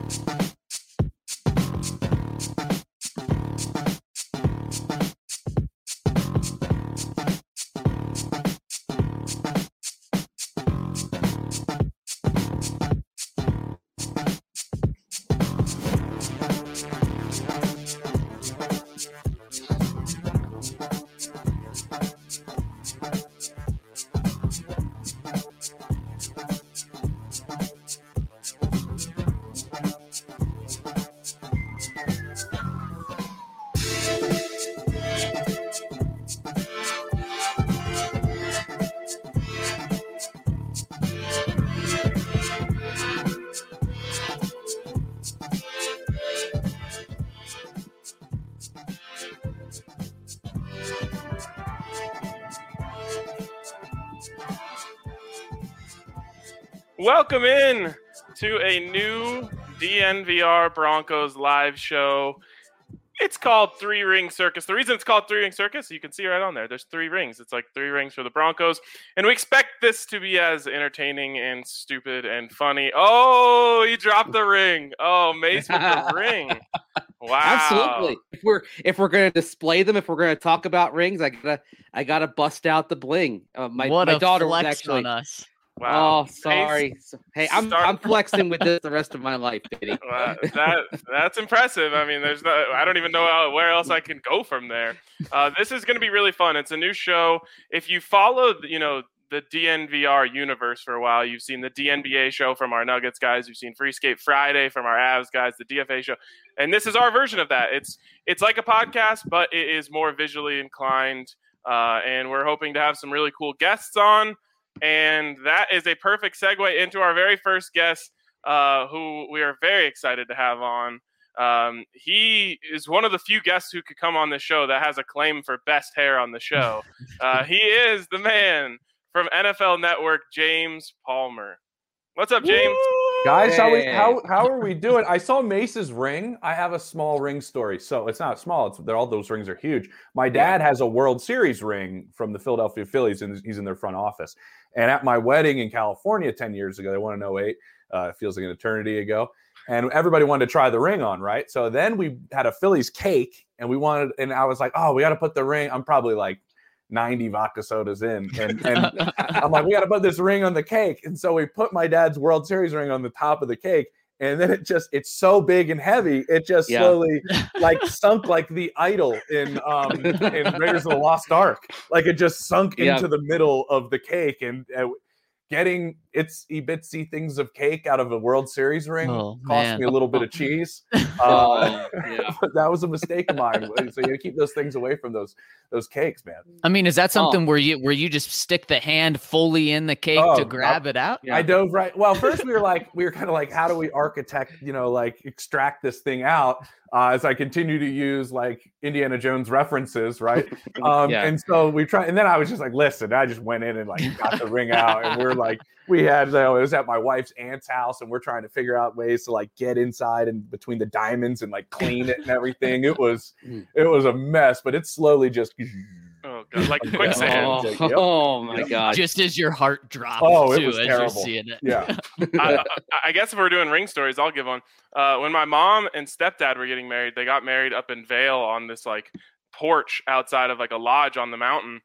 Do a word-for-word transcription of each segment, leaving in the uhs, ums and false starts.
Welcome in to a new D N V R Broncos live show. It's called Three Ring Circus. The reason it's called Three Ring Circus, you can see right on there, there's three rings. It's like three rings for the Broncos. And we expect this to be as entertaining and stupid and funny. Oh, he dropped the ring. Oh, Mace with the ring. Wow. Absolutely. If we're if we're gonna display them, if we're gonna talk about rings, I gotta I gotta bust out the bling. Uh, my what my a daughter flex was actually on us. Wow. Oh, sorry. So, hey, I'm Start- I'm flexing with this the rest of my life, Diddy. Wow, that that's impressive. I mean, there's no, I don't even know how, where else I can go from there. Uh, this is going to be really fun. It's a new show. If you followed, you know, the D N V R universe for a while, you've seen the D N B A show from our Nuggets guys. You've seen Free Skate Friday from our Avs guys, the D F A show, and this is our version of that. It's it's like a podcast, but it is more visually inclined, uh, and we're hoping to have some really cool guests on. And that is a perfect segue into our very first guest, uh, who we are very excited to have on. Um, he is one of the few guests who could come on this show that has a claim for best hair on the show. Uh, he is the man from N F L Network, James Palmer. What's up, James? Guys, how, we, Hey. how how are we doing? I saw Mace's ring. I have a small ring story. So it's not small. It's they're, all those rings are huge. My dad has a World Series ring from the Philadelphia Phillies, and he's in their front office. And at my wedding in California ten years ago, they won in oh eight. Uh, it feels like an eternity ago. And everybody wanted to try the ring on, right? So then we had a Phillies cake, and we wanted, and I was like, oh, we got to put the ring. I'm probably like ninety vodka sodas in. And, and I'm like, we got to put this ring on the cake. And so we put my dad's World Series ring on the top of the cake. And then it just, it's so big and heavy. It just Yeah. slowly like sunk like the idol in, um, in Raiders of the Lost Ark. Like it just sunk Yeah. into the middle of the cake. And uh, getting itsy bitsy things of cake out of a World Series ring Oh, cost man. me a little bit of cheese. Oh, Uh, yeah. but that was a mistake of mine. So you gotta keep those things away from those those cakes, man. I mean, is that something Oh. where you where you just stick the hand fully in the cake Oh, to grab it out? Yeah. I dove right. Well, first we were like, we were kind of like, how do we architect, you know, like extract this thing out? Uh, as I continue to use like Indiana Jones references, right? Um, Yeah. And so we try, and then I was just like, listen, I just went in and like got the ring out, and we're like, we had, you know, it was at my wife's aunt's house, and we're trying to figure out ways to like get inside and between the diamonds and like clean it and everything. It was, it was a mess, but it's slowly just. Oh, God, like quicksand. Oh, Yep. oh my Yep. God. Just as your heart drops Oh, it too, was as terrible. you're seeing it. Yeah. I, I- I guess if we're doing ring stories, I'll give one. Uh, when my mom and stepdad were getting married, they got married up in Vail on this like porch outside of like a lodge on the mountain.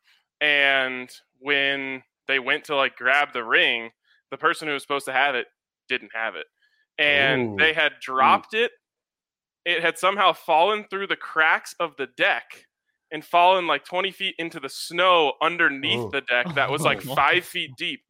And when they went to like grab the ring, the person who was supposed to have it didn't have it. And Ooh. they had dropped it. It had somehow fallen through the cracks of the deck and fallen like twenty feet into the snow underneath Ooh. the deck that was like Oh. five feet deep.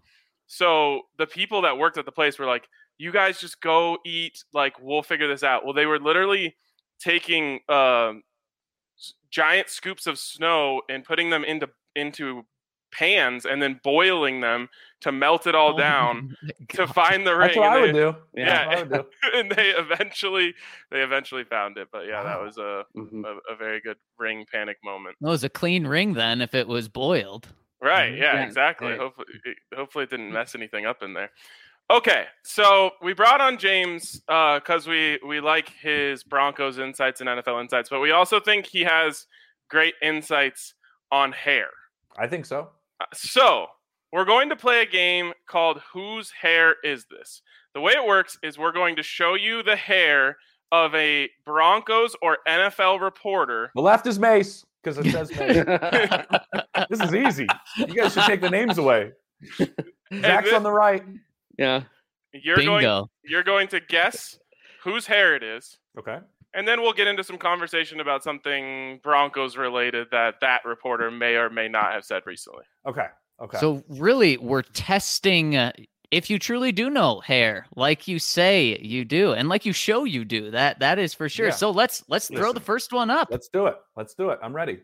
So the people that worked at the place were like, you guys just go eat, like, we'll figure this out. Well, they were literally taking um, s- giant scoops of snow and putting them into into pans and then boiling them to melt it all Oh down my to God. find the ring. That's what And I they- would do. Yeah. That's what I would do. and they eventually they eventually found it. But yeah, that Wow. was a, Mhm. a, a very good ring panic moment. It was a clean ring then if it was boiled. Right. Yeah, Yeah, exactly. right. Hopefully, it, hopefully it didn't mess anything up in there. Okay, so we brought on James because we we like his Broncos insights and N F L insights, but we also think he has great insights on hair. I think so. Uh, So we're going to play a game called Whose Hair Is This? The way it works is we're going to show you the hair of a Broncos or N F L reporter. The left is Mace because it says Mace. This is easy. You guys should take the names away. Zach's this, on the right. Yeah. You're Bingo. going, you're going to guess whose hair it is. Okay. And then we'll get into some conversation about something Broncos related that that reporter may or may not have said recently. Okay. Okay. So really, we're testing uh, if you truly do know hair, like you say you do, and like you show you do. That that is for sure. Yeah. So let's let's throw Listen. the first one up. Let's do it. Let's do it. I'm ready.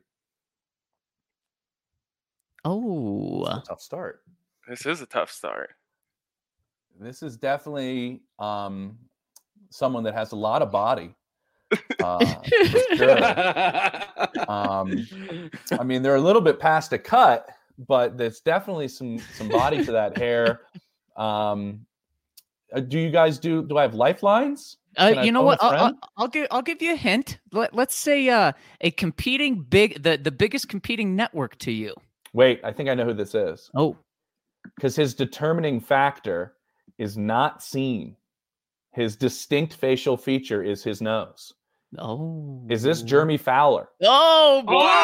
Oh, It's a tough start. This is a tough start. This is definitely um, someone that has a lot of body. Uh, for sure. Um, I mean, they're a little bit past a cut, but there's definitely some some body to that hair. Um, uh, do you guys do? Do I have lifelines? Uh, Can I you know phone what? a I'll, I'll, friend? I'll give I'll give you a hint. Let, let's say uh, a competing big the the biggest competing network to you. Wait, I think I know who this is Oh, because his determining factor is not seen. His distinct facial feature is his nose. oh, Is this Jeremy Fowler? Oh,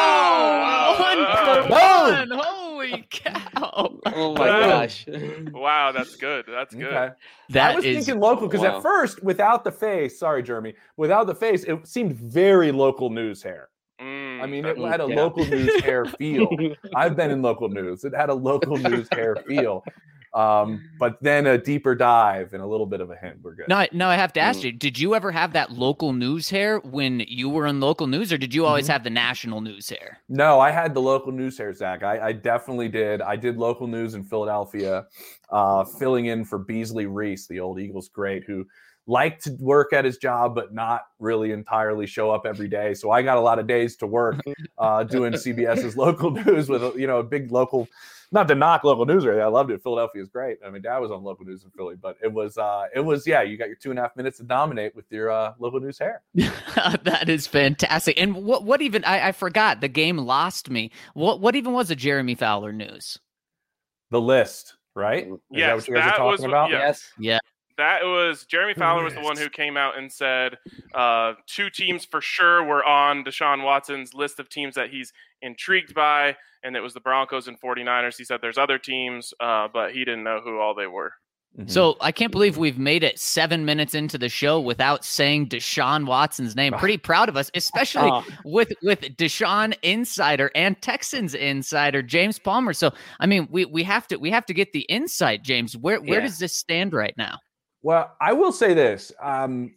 Wow. one for Wow. one! Holy cow! Oh my Wow. gosh. Wow, that's good. That's good. Okay. That I was is thinking local because wow. at first, without the face, sorry, Jeremy, without the face, it seemed very local news hair. Mm, I mean, that- it had a Yeah. local news hair feel. I've been in local news. It had a local news hair feel. Um, but then a deeper dive and a little bit of a hint. We're good. No, no. I have to ask Mm. you: did you ever have that local news hair when you were in local news, or did you always Mhm. have the national news hair? No, I had the local news hair, Zach. I, I definitely did. I did local news in Philadelphia, uh, filling in for Beasley Reese, the old Eagles great, who liked to work at his job, but not really entirely show up every day. So I got a lot of days to work uh, doing CBS's local news with, a, you know, a big local, not to knock local news or anything. I loved it. Philadelphia is great. I mean, Dad was on local news in Philly, but it was, uh, it was, yeah, you got your two and a half minutes to dominate with your uh, local news hair. That is fantastic. And what what even I, I forgot the game lost me. What what even was a Jeremy Fowler news? The list, right? Is Yes, that what you guys that are was talking what- about? yeah. Yes. That was Jeremy Fowler was the one who came out and said uh, two teams for sure were on Deshaun Watson's list of teams that he's intrigued by, and it was the Broncos and 49ers. He said there's other teams, uh, but he didn't know who all they were. Mhm. So I can't believe we've made it seven minutes into the show without saying Deshaun Watson's name. Pretty proud of us, especially Oh, with with Deshaun Insider and Texans Insider James Palmer. So I mean, we we have to we have to get the insight, James. Where where Yeah. does this stand right now? Well, I will say this. Um,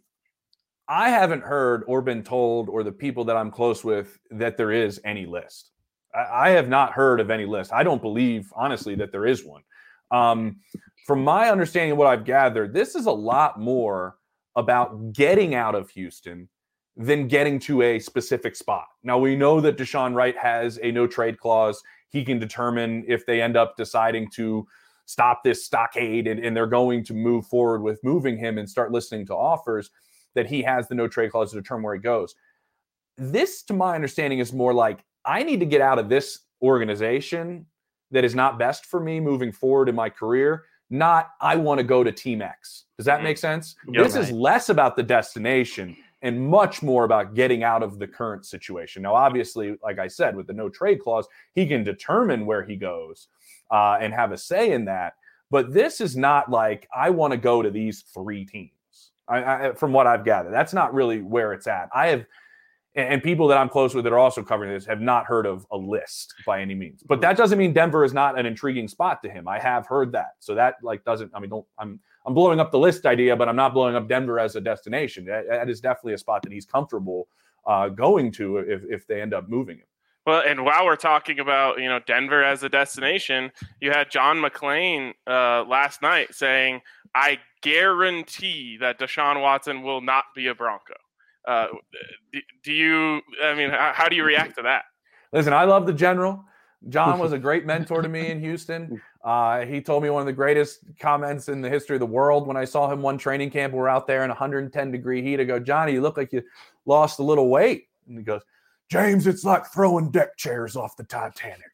I haven't heard or been told, or the people that I'm close with, that there is any list. I, I have not heard of any list. I don't believe, honestly, that there is one. Um, from my understanding of what I've gathered, this is a lot more about getting out of Houston than getting to a specific spot. Now, we know that Deshaun Wright has a no trade clause. He can determine if they end up deciding to stop this stockade and, and they're going to move forward with moving him and start listening to offers, that he has the no trade clause to determine where he goes. This, to my understanding, is more like, I need to get out of this organization that is not best for me moving forward in my career, not I want to go to Team X. Does that Mhm. make sense? Yeah, this is right. less about the destination and much more about getting out of the current situation. Now, obviously, like I said, with the no trade clause, he can determine where he goes uh, and have a say in that. But this is not like, I want to go to these three teams. I, I, from what I've gathered, that's not really where it's at. I have, and, and people that I'm close with that are also covering this have not heard of a list by any means. But that doesn't mean Denver is not an intriguing spot to him. I have heard that. So that like doesn't, I mean, don't, I'm, I'm blowing up the list idea, but I'm not blowing up Denver as a destination. That, that is definitely a spot that he's comfortable uh, going to if, if they end up moving him. Well, and while we're talking about, you know, Denver as a destination, you had John McClain uh, last night saying, I guarantee that Deshaun Watson will not be a Bronco. Uh, do, do you, I mean, how, how do you react to that? Listen, I love the general. John was a great mentor to me in Houston. Uh, he told me one of the greatest comments in the history of the world when I saw him one training camp. We're out there in one hundred ten degree heat. I go, Johnny, you look like you lost a little weight. And he goes, James, it's like throwing deck chairs off the Titanic.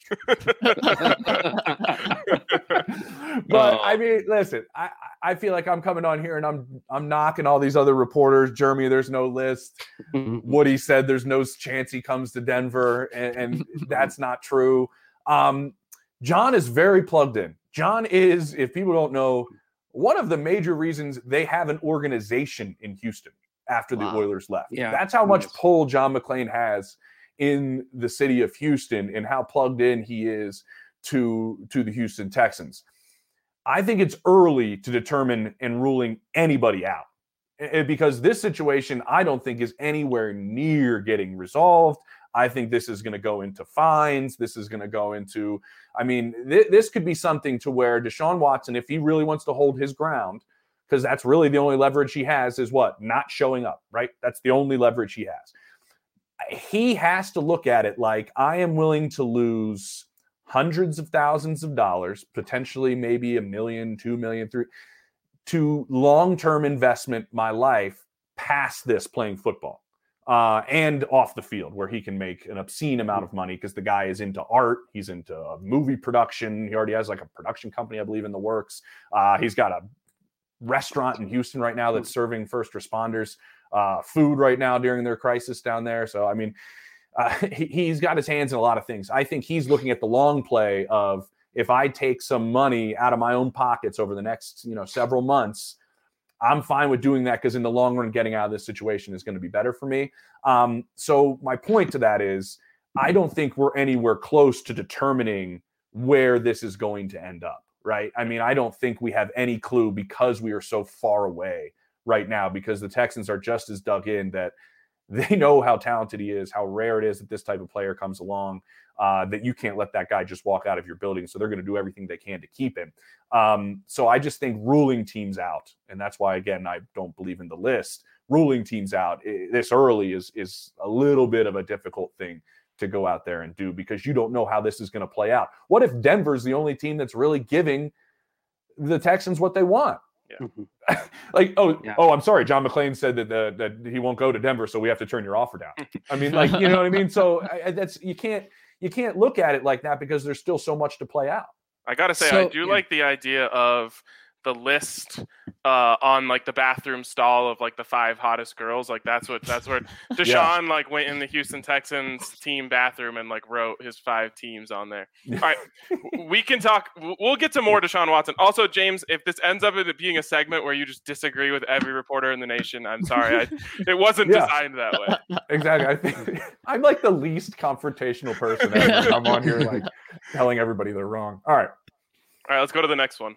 But I mean, listen, I, I feel like I'm coming on here and I'm I'm knocking all these other reporters. Jeremy, there's no list. Woody said there's no chance he comes to Denver, and, and that's not true. Um, John is very plugged in. John is, if people don't know, one of the major reasons they have an organization in Houston after the wow. Oilers left. Yeah. That's how much pull John McClain has in the city of Houston and how plugged in he is to, to the Houston Texans. I think it's early to determine and ruling anybody out because this situation, I don't think is anywhere near getting resolved. I think this is going to go into fines. This is going to go into, I mean, th- this could be something to where Deshaun Watson, if he really wants to hold his ground, because that's really the only leverage he has is what? Not showing up, right? That's the only leverage he has. He has to look at it like, I am willing to lose hundreds of thousands of dollars, potentially maybe a million, two million, three, to long-term investment my life past this playing football. Uh, and off the field where he can make an obscene amount of money because the guy is into art. He's into movie production. He already has like a production company, I believe, in the works. Uh, he's got a restaurant in Houston right now that's serving first responders uh, food right now during their crisis down there. So, I mean, uh, he, he's got his hands in a lot of things. I think he's looking at the long play of if I take some money out of my own pockets over the next, you know, several months, I'm fine with doing that because in the long run, getting out of this situation is going to be better for me. Um, so my point to that is I don't think we're anywhere close to determining where this is going to end up, right? I mean, I don't think we have any clue because we are so far away right now because the Texans are just as dug in that they know how talented he is, how rare it is that this type of player comes along, uh, that you can't let that guy just walk out of your building. So they're going to do everything they can to keep him. Um, so I just think ruling teams out, and that's why, again, I don't believe in the list. Ruling teams out this early is is a little bit of a difficult thing to go out there and do because you don't know how this is going to play out. What if Denver's the only team that's really giving the Texans what they want? Yeah. like, oh, yeah. oh, I'm sorry. John McClain said that the, that he won't go to Denver, so we have to turn your offer down. I mean, like, you know what I mean? So I, that's you can't you can't look at it like that because there's still so much to play out. I gotta say, so, I do yeah. like the idea of the list uh, on like the bathroom stall of like the five hottest girls. Like that's what that's where Deshaun yeah. like went in the Houston Texans team bathroom and like wrote his five teams on there. All right, we can talk. We'll get to more Deshaun Watson. Also, James, if this ends up it being a segment where you just disagree with every reporter in the nation, I'm sorry. I, it wasn't yeah. designed that way. Exactly. I think I'm like the least confrontational person ever. I'm on here like telling everybody they're wrong. All right. All right, let's go to the next one.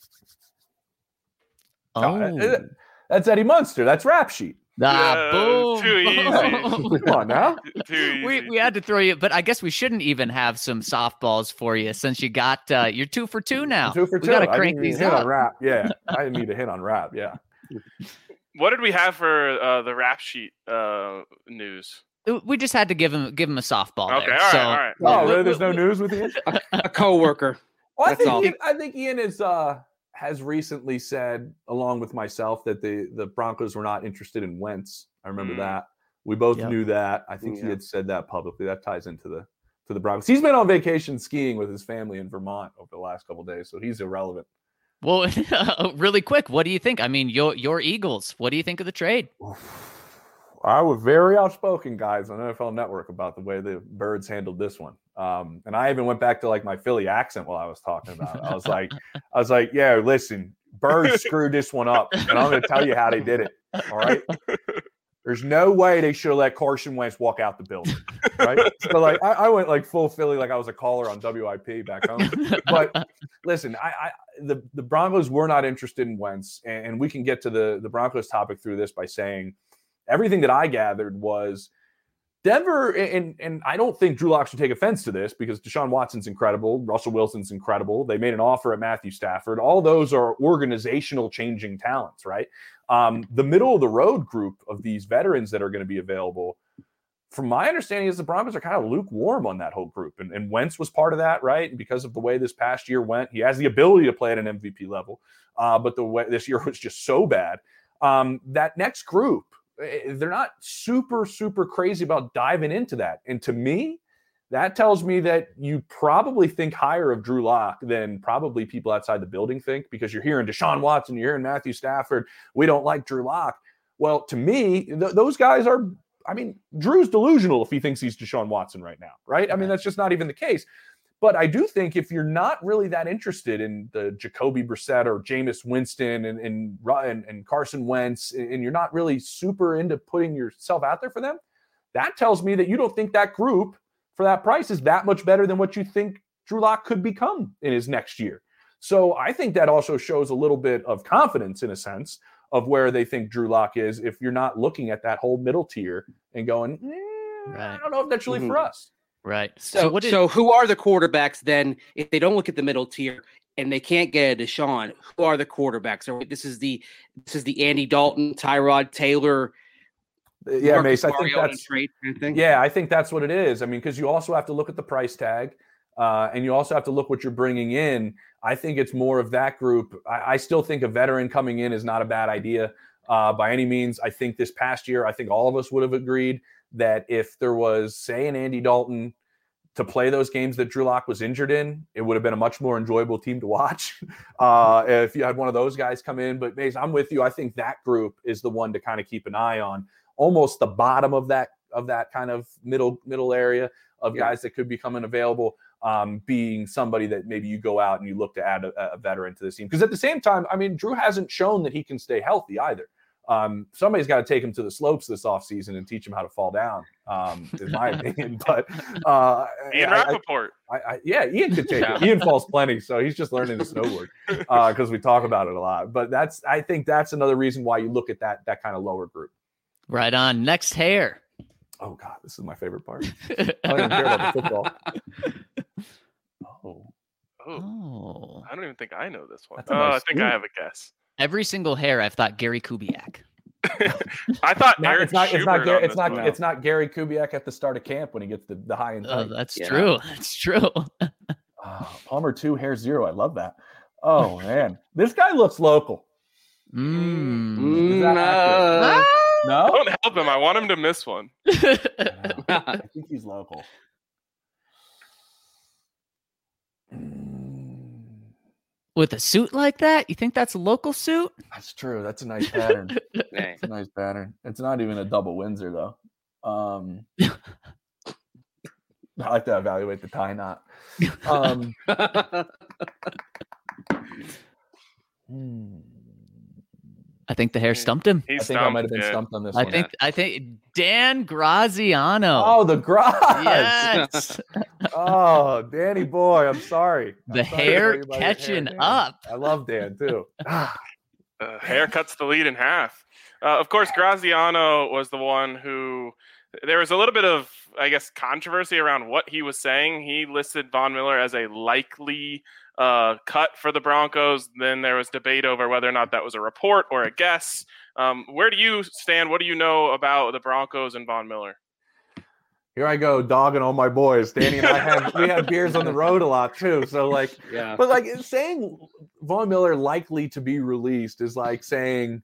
Oh, that's Eddie Munster. That's Rap Sheet. Ah, yeah, boom. Too easy. Come on now. Too easy. We we had to throw you, but I guess we shouldn't even have some softballs for you since you got uh, you're two for two now. Two for two. We got to I crank didn't these hit up. on Rap. Yeah, I didn't need a hit on Rap. Yeah. What did we have for uh, the Rap Sheet uh, news? We just had to give him give him a softball. Okay, there. all right, so, all right. Oh, really? There's no news with Ian? a, a coworker. Well, I That's think all. Ian, I think Ian is uh has recently said, along with myself, that the the Broncos were not interested in Wentz. I remember Mm. that. We both Yep. knew that. I think he Yeah. had said that publicly. That ties into the to the Broncos. He's been on vacation skiing with his family in Vermont over the last couple of days, so he's irrelevant. Well, really quick, what do you think? I mean, your your Eagles. What do you think of the trade? I was very outspoken, guys, on N F L Network about the way the Birds handled this one. Um, and I even went back to like my Philly accent while I was talking about it. I was like, I was like, yeah, listen, Birds screwed this one up, and I'm going to tell you how they did it. All right. There's no way they should have let Carson Wentz walk out the building. Right. So like, I, I went like full Philly, like I was a caller on W I P back home. But listen, I, I the, the Broncos were not interested in Wentz, and, and we can get to the, the Broncos topic through this by saying everything that I gathered was Denver, and, and I don't think Drew Lock should take offense to this because Deshaun Watson's incredible. Russell Wilson's incredible. They made an offer at Matthew Stafford. All those are organizational changing talents, right? Um, the middle of the road group of these veterans that are going to be available, from my understanding, is the Broncos are kind of lukewarm on that whole group. And, and Wentz was part of that, right? And because of the way this past year went, he has the ability to play at an M V P level. Uh, but the way this year was just so bad. Um, that next group, they're not super, super crazy about diving into that. And to me, that tells me that you probably think higher of Drew Lock than probably people outside the building think, because you're hearing Deshaun Watson, you're hearing Matthew Stafford. We don't like Drew Lock. Well, to me, th- those guys are, I mean, Drew's delusional if he thinks he's Deshaun Watson right now, right? I mean, that's just not even the case. But I do think if you're not really that interested in the Jacoby Brissett or Jameis Winston and, and, and, and Carson Wentz, and you're not really super into putting yourself out there for them, that tells me that you don't think that group for that price is that much better than what you think Drew Lock could become in his next year. So I think that also shows a little bit of confidence in a sense of where they think Drew Lock is if you're not looking at that whole middle tier and going, eh, Right. I don't know if that's really Mhm. for us. Right. So, So what did, so who are the quarterbacks then? If they don't look at the middle tier and they can't get a Deshaun, who are the quarterbacks? Or this is the this is the Andy Dalton, Tyrod Taylor, Yeah, Marcus Mace, I think Mariota that's trade kind of thing? yeah, I think that's what it is. I mean, because you also have to look at the price tag, uh, and you also have to look what you're bringing in. I think it's more of that group. I, I still think a veteran coming in is not a bad idea uh, by any means. I think this past year, I think all of us would have agreed that if there was, say, an Andy Dalton to play those games that Drew Lock was injured in, it would have been a much more enjoyable team to watch uh, if you had one of those guys come in. But Mace, I'm with you. I think that group is the one to kind of keep an eye on, almost the bottom of that of that kind of middle middle area of Yeah. guys that could be coming available, um, being somebody that maybe you go out and you look to add a, a veteran to the team. Because at the same time, I mean, Drew hasn't shown that he can stay healthy either. Um, somebody's got to take him to the slopes this offseason and teach him how to fall down, um, is my opinion. But uh, Ian I- I- Rappaport. I, I, yeah, Ian could take it. Ian falls plenty, so he's just learning to snowboard because uh, we talk about it a lot. But that's, I think that's another reason why you look at that that kind of lower group. right on. Next hair. Oh God, this is my favorite part. I don't even care about the football. Oh, Oh, Oh. I don't even think I know this one. That's a Oh, nice I think I scoop. have a guess. Every single hair, I've thought Gary Kubiak. I thought not, Aaron it's not. It's not. Schubert Gary, on it's this not. one. It's not Gary Kubiak at the start of camp when he gets the, the high and Oh, tight. that's Yeah. true. That's true. Oh, Palmer two, hair zero. I love that. Oh man, this guy looks local. Mm. Is that accurate? Uh, No, Don't help him. I want him to miss one. I think he's local. Mm, With a suit like that, you think that's a local suit? That's true. That's a nice pattern. dang. It's a nice pattern. It's not even a double Windsor though. Um, I like to evaluate the tie knot. Um, hmm. I think the hair stumped him. He's I think I might have been yeah. stumped on this I one. think I think Dan Graziano. Oh, the garage. yes. Oh, Danny boy, I'm sorry. I'm The sorry hair about your catching Dan. up. I love Dan too. Ah, Uh, hair cuts the lead in half. Uh, of course, Graziano was the one who there was a little bit of, I guess, controversy around what he was saying. He listed Von Miller as a likely uh, cut for the Broncos. Then there was debate over whether or not that was a report or a guess. Um, where do you stand? What do you know about the Broncos and Von Miller? Here I go, dogging all my boys. Danny and I have we have beers on the road a lot too. So like, Yeah. but like saying Von Miller likely to be released is like saying,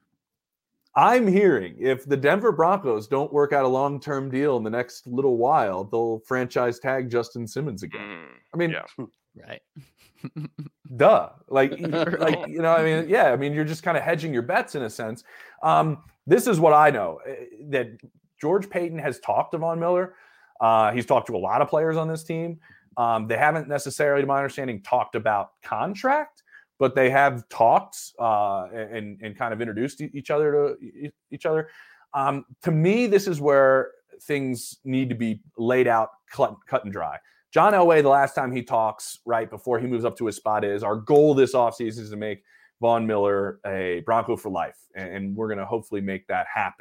I'm hearing if the Denver Broncos don't work out a long-term deal in the next little while, they'll franchise tag Justin Simmons again. Mm, I mean, yeah. Right. duh. Like, like you know, I mean, yeah, I mean, you're just kind of hedging your bets in a sense. Um, this is what I know eh, that George Paton has talked to Von Miller. Uh, he's talked to a lot of players on this team. Um, they haven't necessarily, to my understanding, talked about contract, but they have talked uh, and and kind of introduced e- each other to e- each other. Um, to me, this is where things need to be laid out, cut, cut and dry. John Elway, the last time he talks, right before he moves up to his spot, is our goal this offseason is to make Von Miller a Bronco for life, and, and we're going to hopefully make that happen.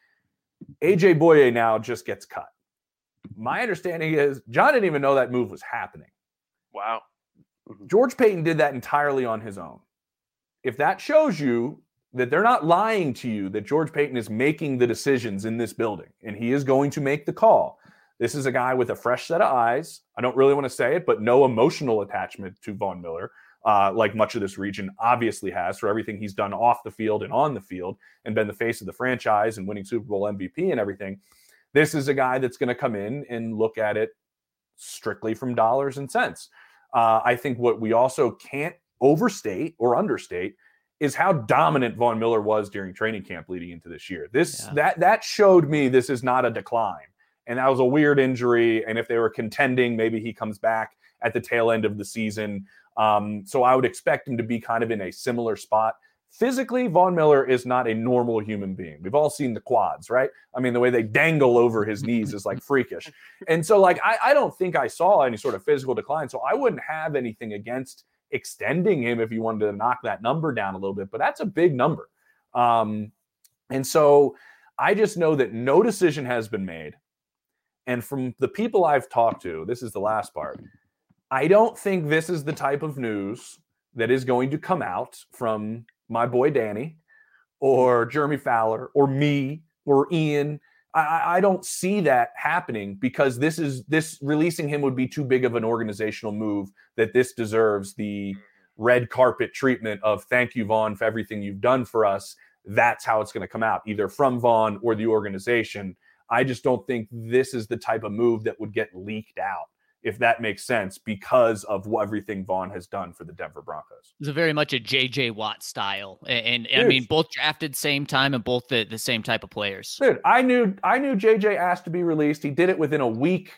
A J Boye now just gets cut. My understanding is John didn't even know that move was happening. Wow. George Paton did that entirely on his own. If that shows you that they're not lying to you, that George Paton is making the decisions in this building, and he is going to make the call. This is a guy with a fresh set of eyes. I don't really want to say it, but no emotional attachment to Von Miller. uh, like much of this region obviously has for everything he's done off the field and on the field and been the face of the franchise and winning Super Bowl M V P and everything. This is a guy that's going to come in and look at it strictly from dollars and cents. Uh, I think what we also can't overstate or understate is how dominant Von Miller was during training camp leading into this year. This yeah. that that showed me this is not a decline. And that was a weird injury. And if they were contending, maybe he comes back at the tail end of the season. Um, so I would expect him to be kind of in a similar spot. Physically, Von Miller is not a normal human being. We've all seen the quads, right? I mean, the way they dangle over his knees is like freakish. And so like, I, I don't think I saw any sort of physical decline. So I wouldn't have anything against extending him if you wanted to knock that number down a little bit, but that's a big number. Um, and so I just know that no decision has been made. And from the people I've talked to, this is the last part, I don't think this is the type of news that is going to come out from my boy Danny or Jeremy Fowler or me or Ian. I, I don't see that happening because this is this releasing him would be too big of an organizational move that this deserves the red carpet treatment of thank you, Von, for everything you've done for us. That's how it's going to come out, either from Von or the organization. I just don't think this is the type of move that would get leaked out, if that makes sense, because of what everything Von has done for the Denver Broncos. It's a very much a J J Watt style. And, and I mean, both drafted same time and both the, the same type of players. Dude, I knew I knew J J asked to be released. He did it within a week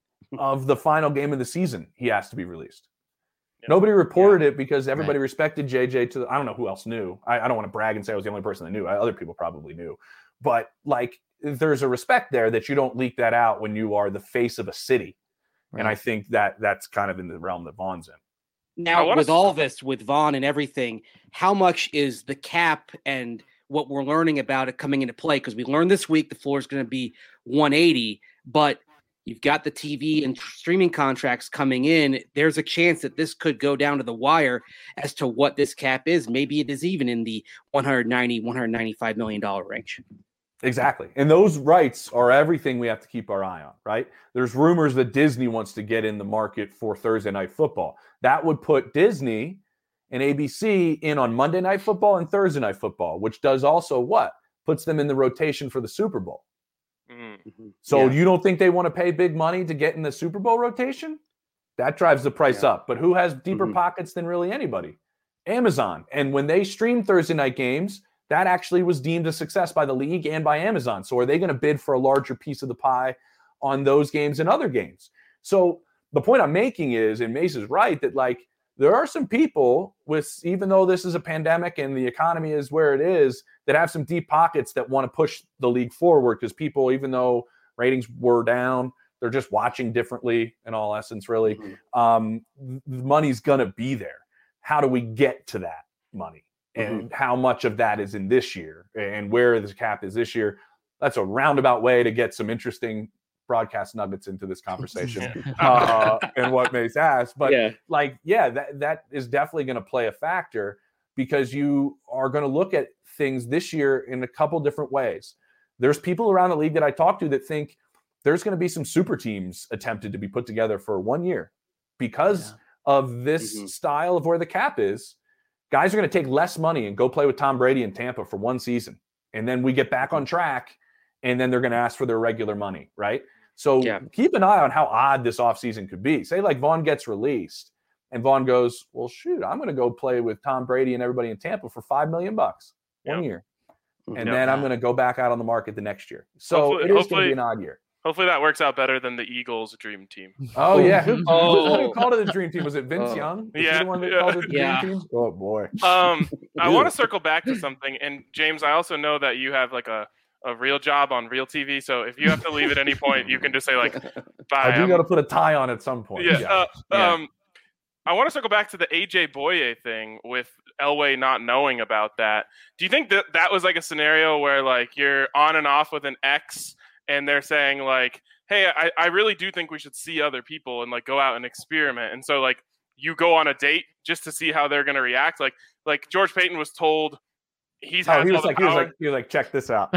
of the final game of the season. He asked to be released. Yep. Nobody reported yeah. it because everybody right. respected J J to the, I don't know who else knew. I, I don't want to brag and say I was the only person that knew. I, other people probably knew. But like, there's a respect there that you don't leak that out when you are the face of a city. Right. And I think that that's kind of in the realm that Von's in. Now, with all this, with Von and everything, how much is the cap and what we're learning about it coming into play? Because we learned this week the floor is going to be one eighty, but you've got the T V and streaming contracts coming in. There's a chance that this could go down to the wire as to what this cap is. Maybe it is even in the one ninety, one ninety-five million dollars range. Exactly. And those rights are everything we have to keep our eye on, right? There's rumors that Disney wants to get in the market for Thursday Night Football. That would put Disney and A B C in on Monday Night Football and Thursday Night Football, which does also what? Puts them in the rotation for the Super Bowl. Mm-hmm. So yeah. you don't think they want to pay big money to get in the Super Bowl rotation? That drives the price yeah. up. But who has deeper mm-hmm. pockets than really anybody? Amazon. And when they stream Thursday night games, that actually was deemed a success by the league and by Amazon. So are they going to bid for a larger piece of the pie on those games and other games? So the point I'm making is, and Mace is right, that like there are some people with, even though this is a pandemic and the economy is where it is, that have some deep pockets that want to push the league forward because people, even though ratings were down, they're just watching differently in all essence, really. Mm-hmm. Um, the money's going to be there. How do we get to that money? And mm-hmm. how much of that is in this year and where the cap is this year? That's a roundabout way to get some interesting broadcast nuggets into this conversation uh, and what Mace asked. But yeah. like, yeah, that, that is definitely going to play a factor because you are going to look at things this year in a couple different ways. There's people around the league that I talk to that think there's going to be some super teams attempted to be put together for one year because yeah. of this mm-hmm. style of where the cap is. Guys are going to take less money and go play with Tom Brady in Tampa for one season. And then we get back on track and then they're going to ask for their regular money, right? So yeah. keep an eye on how odd this offseason could be. Say like Von gets released and Von goes, well, shoot, I'm going to go play with Tom Brady and everybody in Tampa for five million bucks one yeah. year. And yeah. then I'm going to go back out on the market the next year. So hopefully, it is going to be an odd year. Hopefully that works out better than the Eagles' dream team. Oh, yeah. Who, oh. who called it the dream team? Was it Vince oh. Young? Was yeah. the one that yeah. called it the yeah. dream team? Oh, boy. Um, I want to circle back to something. And, James, I also know that you have, like, a, a real job on Real T V. So if you have to leave at any point, you can just say, like, bye. I do got to put a tie on at some point. Yeah. yeah. Uh, yeah. Um, I want to circle back to the A J Boye thing with Elway not knowing about that. Do you think that that was, like, a scenario where, like, you're on and off with an ex and they're saying, like, hey, I, I really do think we should see other people and like go out and experiment. And so like you go on a date just to see how they're going to react. Like, like George Payton was told he's oh, has he was all the like, power. He was like, he was like, check this out.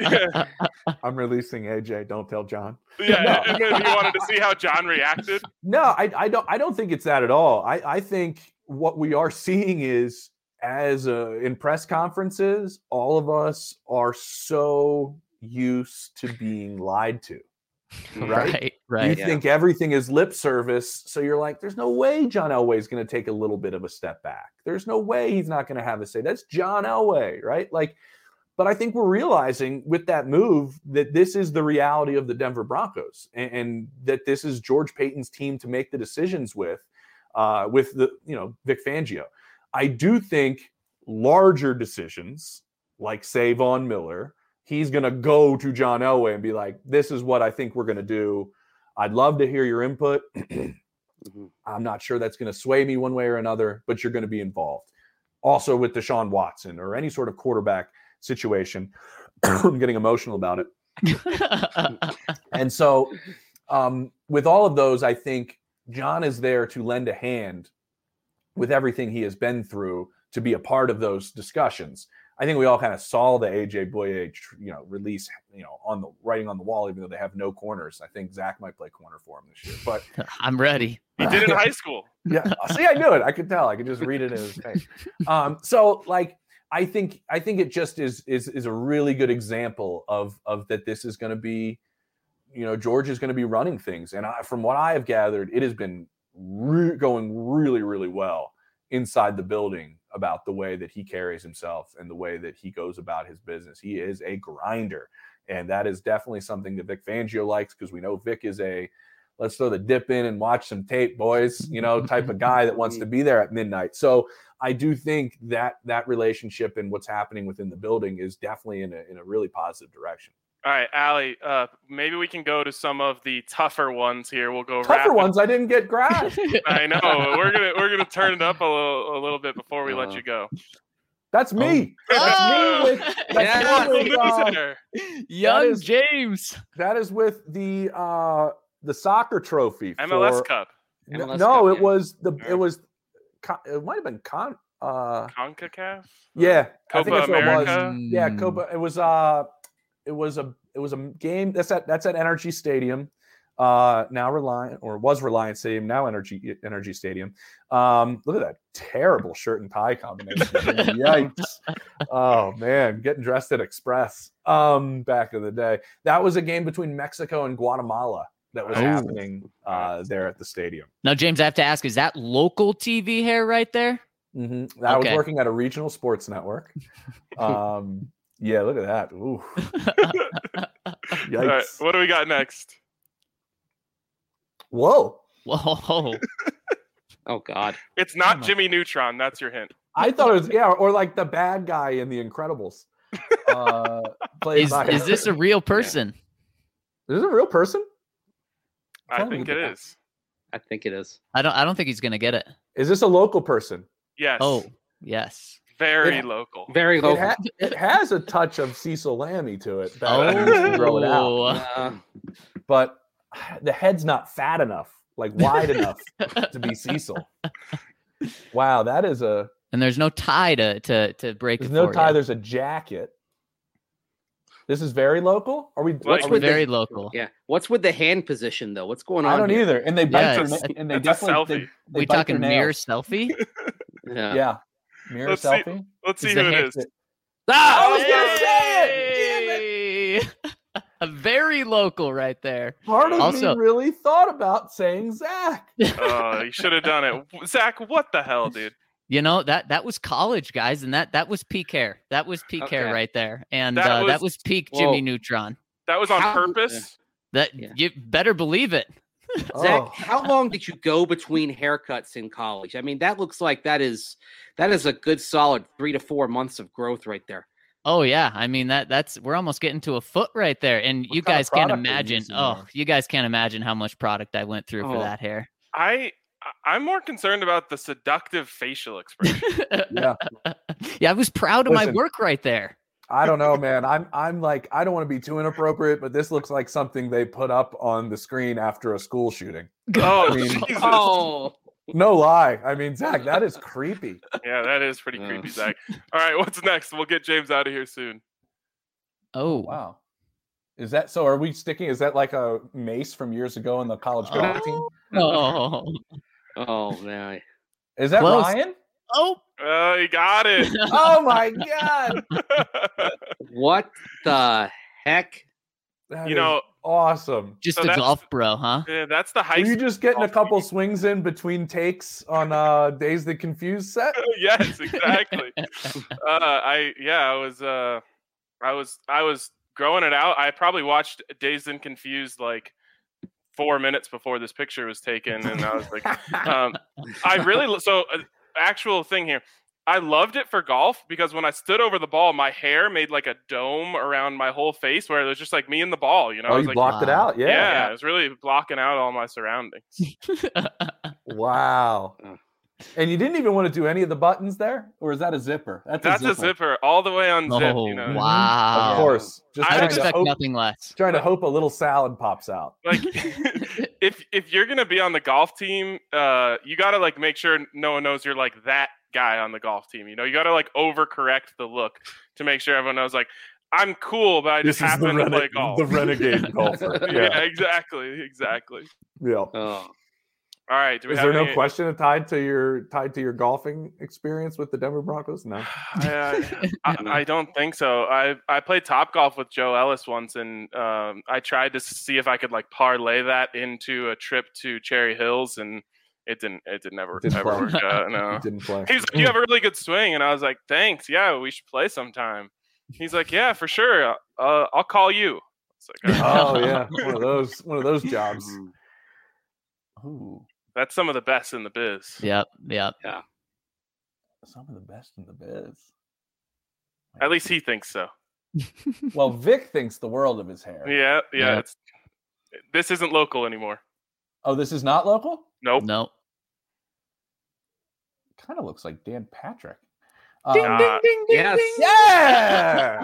I'm releasing A J. Don't tell John. Yeah. No. And then he wanted to see how John reacted. No, I, I don't, I don't think it's that at all. I, I think what we are seeing is, as uh, in press conferences, all of us are so used to being lied to. Right, right. right. You yeah. think everything is lip service, so you're like, "There's no way John Elway is going to take a little bit of a step back. There's no way he's not going to have a say." That's John Elway, right? Like, but I think we're realizing with that move that this is the reality of the Denver Broncos, and, and that this is George Paton's team to make the decisions with, uh, with the you know Vic Fangio. I do think larger decisions, like say Von Miller, he's going to go to John Elway and be like, "This is what I think we're going to do. I'd love to hear your input. Mm-hmm. I'm not sure that's going to sway me one way or another, but you're going to be involved." Also with Deshaun Watson or any sort of quarterback situation. I'm getting emotional about it. And so um, with all of those, I think John is there to lend a hand with everything he has been through to be a part of those discussions. I think we all kind of saw the A J Boye, you know, release, you know, on the writing on the wall, even though they have no corners. I think Zach might play corner for him this year, but I'm ready. He did it in high school. Yeah, see, I knew it. I could tell. I could just read it in his face. Um, so, like, I think, I think it just is is is a really good example of of that. This is going to be, you know, George is going to be running things, and I, from what I have gathered, it has been re- going really, really well inside the building about the way that he carries himself and the way that he goes about his business. He is a grinder, and that is definitely something that Vic Fangio likes, because we know Vic is a let's throw the dip in and watch some tape, boys, you know, type of guy that wants to be there at midnight. So I do think that that relationship and what's happening within the building is definitely in a, in a really positive direction. All right, Allie, uh, maybe we can go to some of the tougher ones here. We'll go Tougher rapid. ones I didn't get grabbed. I know. We're gonna we're gonna turn it up a little a little bit before we let you go. That's me. Oh. That's me with, that's Yeah. me with, uh, Loser. Young is- James. that is with the uh, the soccer trophy. M L S for, Cup, M L S no, Cup, it yeah. was the Yeah. it was con- it might have been con. Uh, CONCACAF. yeah, I Copa think that's what it was. America. Yeah, Mm. Copa. It was uh, it was a it was a game. That's at that's at Energy Stadium. Uh, now Reliant, or was Reliant Stadium, now Energy Energy Stadium. Um, look at that terrible shirt and tie combination. Yikes! Oh man, getting dressed at Express. Um, back in the day, that was a game between Mexico and Guatemala that was Oh. happening uh, there at the stadium. Now, James, I have to ask, is that local T V hair right there? Mm-hmm. I was Okay. working at a regional sports network. Um, yeah, look at that. Ooh, yikes! All right, what do we got next? Whoa! Whoa. Oh God. It's Oh not my- Jimmy Neutron. That's your hint. I thought it was yeah, or like the bad guy in The Incredibles. Uh, played Is, by, is this a real person? Is this a real person? I Tell me think the- it is. I think it is. I don't I don't think he's gonna get it. Is this a local person? Yes. Oh, yes. very Yeah. local. Very It, local. ha- it has a touch of Cecil Lammy to it. That Oh. I used to grow it out, Uh, but the head's not fat enough, like wide enough to be Cecil. Wow, that is a. And there's no tie to to to break There's it no for tie. you. There's a jacket. This is very local. Are we? Like- what's It's with very the, local. yeah. What's with the hand position though? What's going on? I don't here? either. And they Yeah, bite their it's- na- and they it's a definitely they, selfie. they We bite talking their mirror nails. selfie? Yeah. Yeah, mirror Let's see- selfie. Let's see Is who the it hand- is. Ah! I was gonna say Yay! A very local right there. Part of Also- me really thought about saying Zach. Oh, you should have done it, Zach. What the hell, dude? You know, that that was college, guys, and that that was peak hair. That was peak hair Okay. right there. And That uh, that was- was peak Whoa. Jimmy Neutron. That was on How- purpose. That Yeah. you better believe it. Zach, Oh. how long did you go between haircuts in college? I mean, that looks like that is that is a good solid three to four months of growth right there. Oh yeah, I mean that that's we're almost getting to a foot right there, and What you kind of guys can't product are you imagine. using Oh, there? you guys can't imagine how much product I went through for Oh. that hair. I I'm more concerned about the seductive facial expression. Yeah, Yeah, I was proud of my Listen. work right there. I don't know, man. I'm I'm like I don't want to be too inappropriate, but this looks like something they put up on the screen after a school shooting. Oh, I mean- Jesus. Oh, No lie. I mean, Zach, that is creepy. Yeah, that is pretty Uh. creepy, Zach. All right, what's next? We'll get James out of here soon. Oh, Wow. Is that so? Are we sticking? Is that like a mace from years ago in the college golf team? oh, oh man. Is that Close. Ryan? Oh, Oh, you got it. Oh my God. What the heck? That You is know- awesome. just So a that's golf bro, huh? Yeah, that's the high Were you school just getting a golf couple team. swings in between takes on uh Days That Confuse set? Yes, exactly. uh, I yeah, I was uh, I was I was growing it out. I probably watched Dazed and Confused like four minutes before this picture was taken, and I was like, um, I really so uh, actual thing here. I loved it for golf because when I stood over the ball, my hair made like a dome around my whole face, where it was just like me and the ball. You know, Oh, I was you like, blocked it wow. out? yeah, Yeah. it was really blocking out all my surroundings. Wow. Oh. And you didn't even want to do any of the buttons there? Or is that a zipper? That's, That's a zipper all the way unzipped. Oh, you know, wow. Of course. Just I I'd trying to, expect hope, nothing less. trying to hope a little salad pops out. like if if you're gonna be on the golf team, uh, you gotta like make sure no one knows you're like that guy on the golf team. You know, you gotta like overcorrect the look to make sure everyone knows like I'm cool, but I just This is the, happen to rene- play golf. the renegade golfer. yeah. Yeah. exactly, exactly. yeah. Oh. All right, do we Is have there any... no question tied to your tied to your golfing experience with the Denver Broncos? No. I, I, I don't think so. I I played Top Golf with Joe Ellis once, and um, I tried to see if I could like parlay that into a trip to Cherry Hills, and it didn't. It did never It didn't ever play. work out. No. Didn't play. He's like, "You have a really good swing," and I was like, "Thanks. Yeah, we should play sometime." He's like, "Yeah, for sure. Uh, I'll call you." It's like, all right. Oh yeah, one of those one of those jobs. Ooh, That's some of the best in the biz. Yep, yep. some of the best in the biz. At least he thinks so. Well, Vic thinks the world of his hair. Yeah, yeah. Yeah. It's, this isn't local anymore. Oh, this is not local? Nope. No. Kind of looks like Dan Patrick. Ding, Um, ding, ding, ding, Yes. ding. Yeah.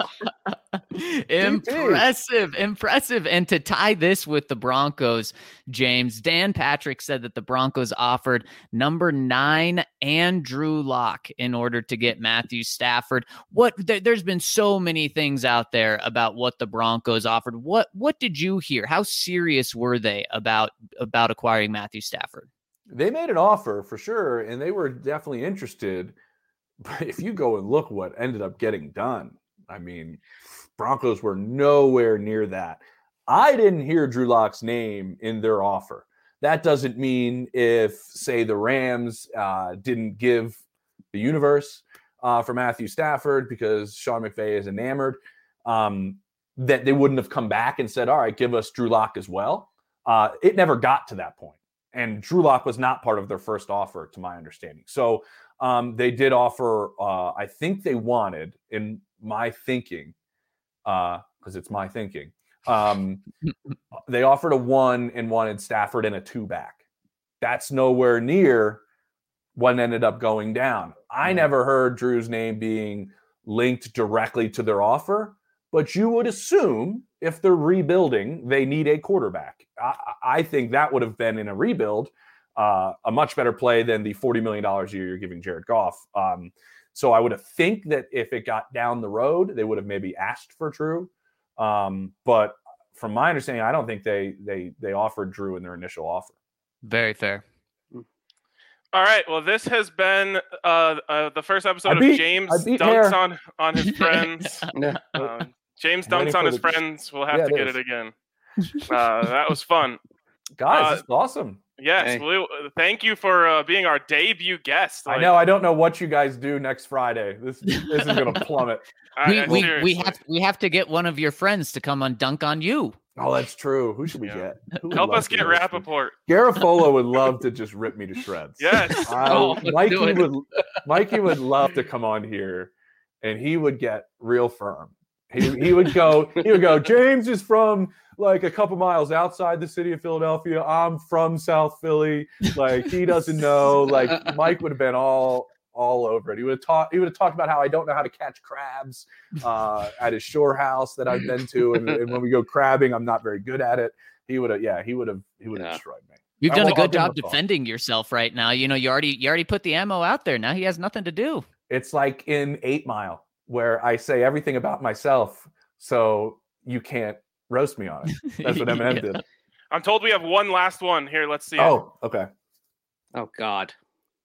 Impressive, impressive. And to tie this with the Broncos, James, Dan Patrick said that the Broncos offered number nine and Drew Lock in order to get Matthew Stafford. What there, there's been so many things out there about what the Broncos offered. What what did you hear? How serious were they about about acquiring Matthew Stafford? They made an offer for sure, and they were definitely interested. But if you go and look what ended up getting done, I mean, Broncos were nowhere near that. I didn't hear Drew Lock's name in their offer. That doesn't mean if, say, the Rams uh, didn't give the universe uh, for Matthew Stafford because Sean McVay is enamored, um, that they wouldn't have come back and said, all right, give us Drew Lock as well. Uh, it never got to that point. And Drew Lock was not part of their first offer, to my understanding. So um, they did offer, uh, I think they wanted, in my thinking, because uh, it's my thinking, um, they offered a one and wanted Stafford and a two back. That's nowhere near what ended up going down. I never heard Drew's name being linked directly to their offer, but you would assume if they're rebuilding, they need a quarterback. I, I think that would have been in a rebuild uh, a much better play than the forty million dollars a year you're giving Jared Goff. Um, so I would have think that if it got down the road, they would have maybe asked for Drew. Um, but from my understanding, I don't think they they they offered Drew in their initial offer. Very fair. All right. Well, this has been uh, uh, the first episode I beat- of James I beat dunks hair. on on his friends. Yeah. um, James I'm waiting dunks on for his the- friends. We'll have Yeah, to it get is. it again. Uh, that was fun. Guys, Uh, this is awesome. Yes. Hey. We, thank you for uh, being our debut guest. I Like, know. I don't know what you guys do next Friday. This this is going to plummet. I- we I- we, we seriously. have we have to get one of your friends to come on Dunk on You. Oh, that's true. Who should we Yeah. get? Who would Help love us to get host me? Rappaport. Garofolo would love to just rip me to shreds. Yes. I- Oh, let's Mikey do it. would Mikey would love to come on here, and he would get real firm. He he would go. He would go. James is from like a couple miles outside the city of Philadelphia. I'm from South Philly. Like he doesn't know. Like Mike would have been all all over it. He would have talked. He would have talked about how I don't know how to catch crabs uh, at his shore house that I've been to, and, and when we go crabbing, I'm not very good at it. He would have. Yeah, he would have. He would have Yeah. destroyed me. You've I done a will- I'll good give him job a call. defending yourself right now. You know, you already you already put the ammo out there. Now he has nothing to do. It's like in Eight Mile, where I say everything about myself, so you can't roast me on it. That's what Eminem Yeah. did. I'm told we have one last one here. Let's see. it. Oh, okay. Oh God.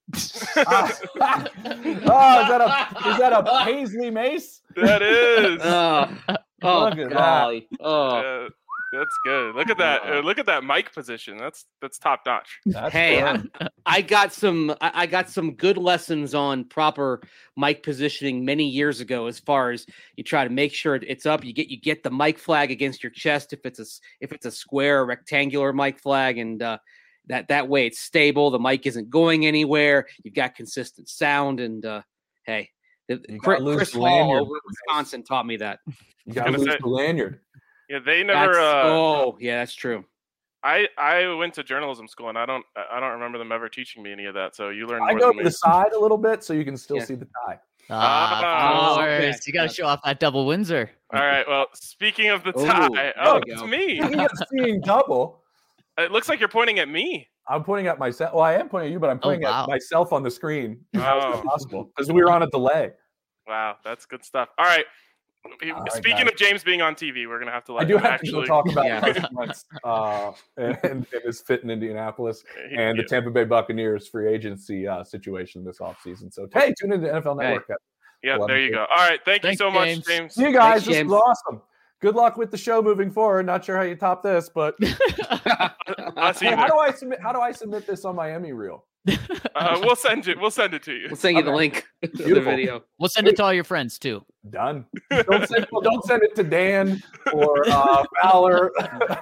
uh, oh, is that a is that a Paisley Mace? That is. Uh, oh, Look at golly. Oh. Uh, that's good. Look at that. Uh, look at that mic position. That's that's top notch. That's Hey, I, good. I got some. I, I got some good lessons on proper mic positioning many years ago. As far as you try to make sure it's up, you get you get the mic flag against your chest if it's a s- if it's a square or rectangular mic flag, and uh, that that way it's stable. The mic isn't going anywhere. You've got consistent sound, and uh, hey, the, You Chris, gotta lose Chris the Hall lanyard. over at Wisconsin taught me that. You gotta gonna lose say- the lanyard. Yeah, they never. That's- Uh, oh, yeah, that's true. I I went to journalism school, and I don't I don't remember them ever teaching me any of that. So you learned I more go than to me. the side a little bit so you can still Yeah. see the tie. Ah, Ah, of okay. course. You got to show off that double Windsor. All right. Well, speaking of the Ooh, tie, there oh, we it's go. me. Speaking of seeing double, It looks like you're pointing at me. I'm pointing at myself. Well, I am pointing at you, but I'm Oh, pointing wow. at myself on the screen. How is Oh. that possible? Because we were on a delay. Wow, that's good stuff. All right. All right, Speaking guys. of James being on T V, we're gonna have to let I do him have actually to talk about Yeah. Carson Wentz uh, and, and his fit in Indianapolis he- and the yeah. Tampa Bay Buccaneers free agency uh, situation this offseason. So, hey, tune into N F L Network. Yeah, Love there it. you go. All right, thank Thanks, you so much, James. James. See you guys. Thanks, This James. was awesome. Good luck with the show moving forward. Not sure how you top this, but I'll see hey, you how there. do I submit? How do I submit this on my Emmy reel? Uh, we'll send it. We'll send it to you. We'll send you the Okay. link to the Beautiful. video. We'll send it to all your friends too. Done. Don't send, well, don't send it to Dan or uh, Fowler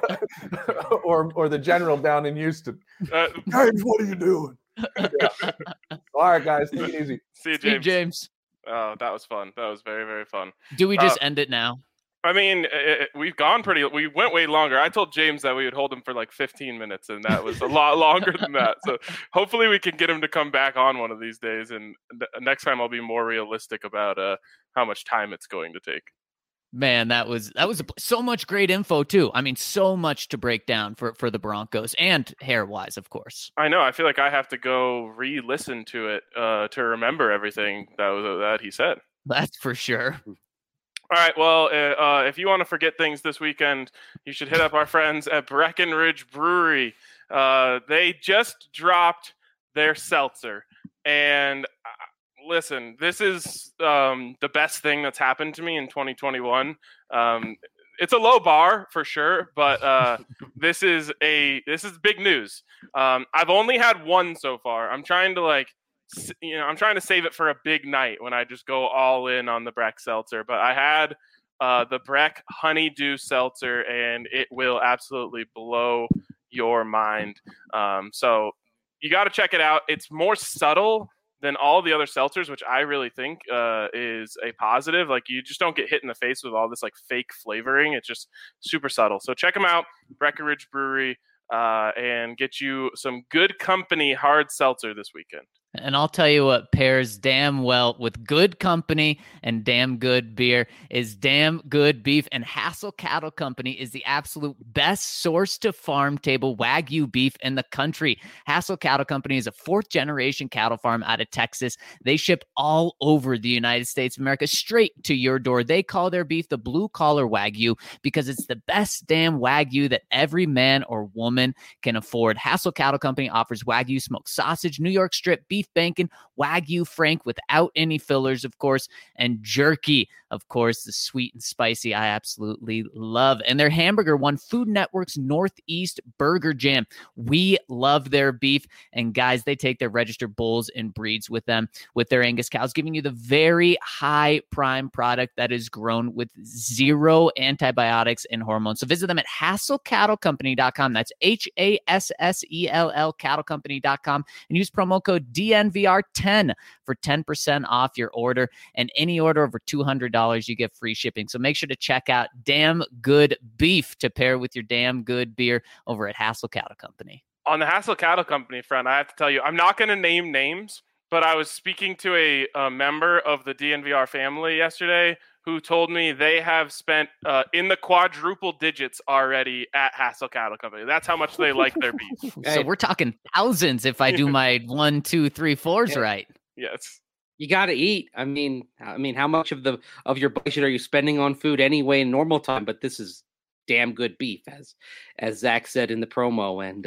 or or the general down in Houston. Uh, James, what are you doing? Yeah. All right, guys, take it easy. see you, Steve James. James. Oh, that was fun. That was very, very fun. Do we just Uh, end it now? I mean, it, it- we've gone pretty. We went way longer. I told James that we would hold him for like fifteen minutes, and that was a lot longer than that. So hopefully, we can get him to come back on one of these days. And th- next time, I'll be more realistic about uh, how much time it's going to take. Man, that was that was a, so much great info too. I mean, so much to break down for for the Broncos and hair wise, of course. I know. I feel like I have to go re-listen to it uh, to remember everything that was that he said. That's for sure. All right. Well, uh, uh, if you want to forget things this weekend, you should hit up our friends at Breckenridge Brewery. Uh, they just dropped their seltzer, and uh, listen, this is um, the best thing that's happened to me in twenty twenty-one. Um, it's a low bar for sure, but uh, this is a this is big news. Um, I've only had one so far. I'm trying to like. s- You know, I'm trying to save it for a big night when I just go all in on the Breck Seltzer. But I had uh, the Breck Honeydew Seltzer, and it will absolutely blow your mind. Um, so you got to check it out. It's more subtle than all the other seltzers, which I really think uh, is a positive. Like you just don't get hit in the face with all this like fake flavoring. It's just super subtle. So check them out, Breckenridge Brewery, uh, and get you some Good Company hard seltzer this weekend. And I'll tell you what pairs damn well with good company and damn good beer is damn good beef. And Hassel Cattle Company is the absolute best source to farm table Wagyu beef in the country. Hassel Cattle Company is a fourth generation cattle farm out of Texas. They ship all over the United States of America straight to your door. They call their beef the blue collar Wagyu because it's the best damn Wagyu that every man or woman can afford. Hassel Cattle Company offers Wagyu smoked sausage, New York strip beef bacon, Wagyu Frank without any fillers, of course, and jerky, of course, the sweet and spicy I absolutely love. And their hamburger won Food Network's Northeast Burger Jam. We love their beef. And guys, they take their registered bulls and breeds with them with their Angus cows, giving you the very high prime product that is grown with zero antibiotics and hormones. So visit them at hassel cattle company dot com. That's H A S S E L L cattle company dot com and use promo code D N V R ten for ten percent off your order. And any order over two hundred dollars, you get free shipping. So make sure to check out Damn Good Beef to pair with your damn good beer over at Hassel Cattle Company. On the Hassel Cattle Company front, I have to tell you, I'm not going to name names, but I was speaking to a, a member of the D N V R family yesterday who told me they have spent uh, in the quadruple digits already at Hassel Cattle Company. That's how much they like their beef. So Hey. we're talking thousands if I do my one, two, three, fours Yeah. right. Yes. You got to eat. I mean, I mean, how much of the of your budget are you spending on food anyway in normal time? But this is damn good beef, as as Zach said in the promo, and uh,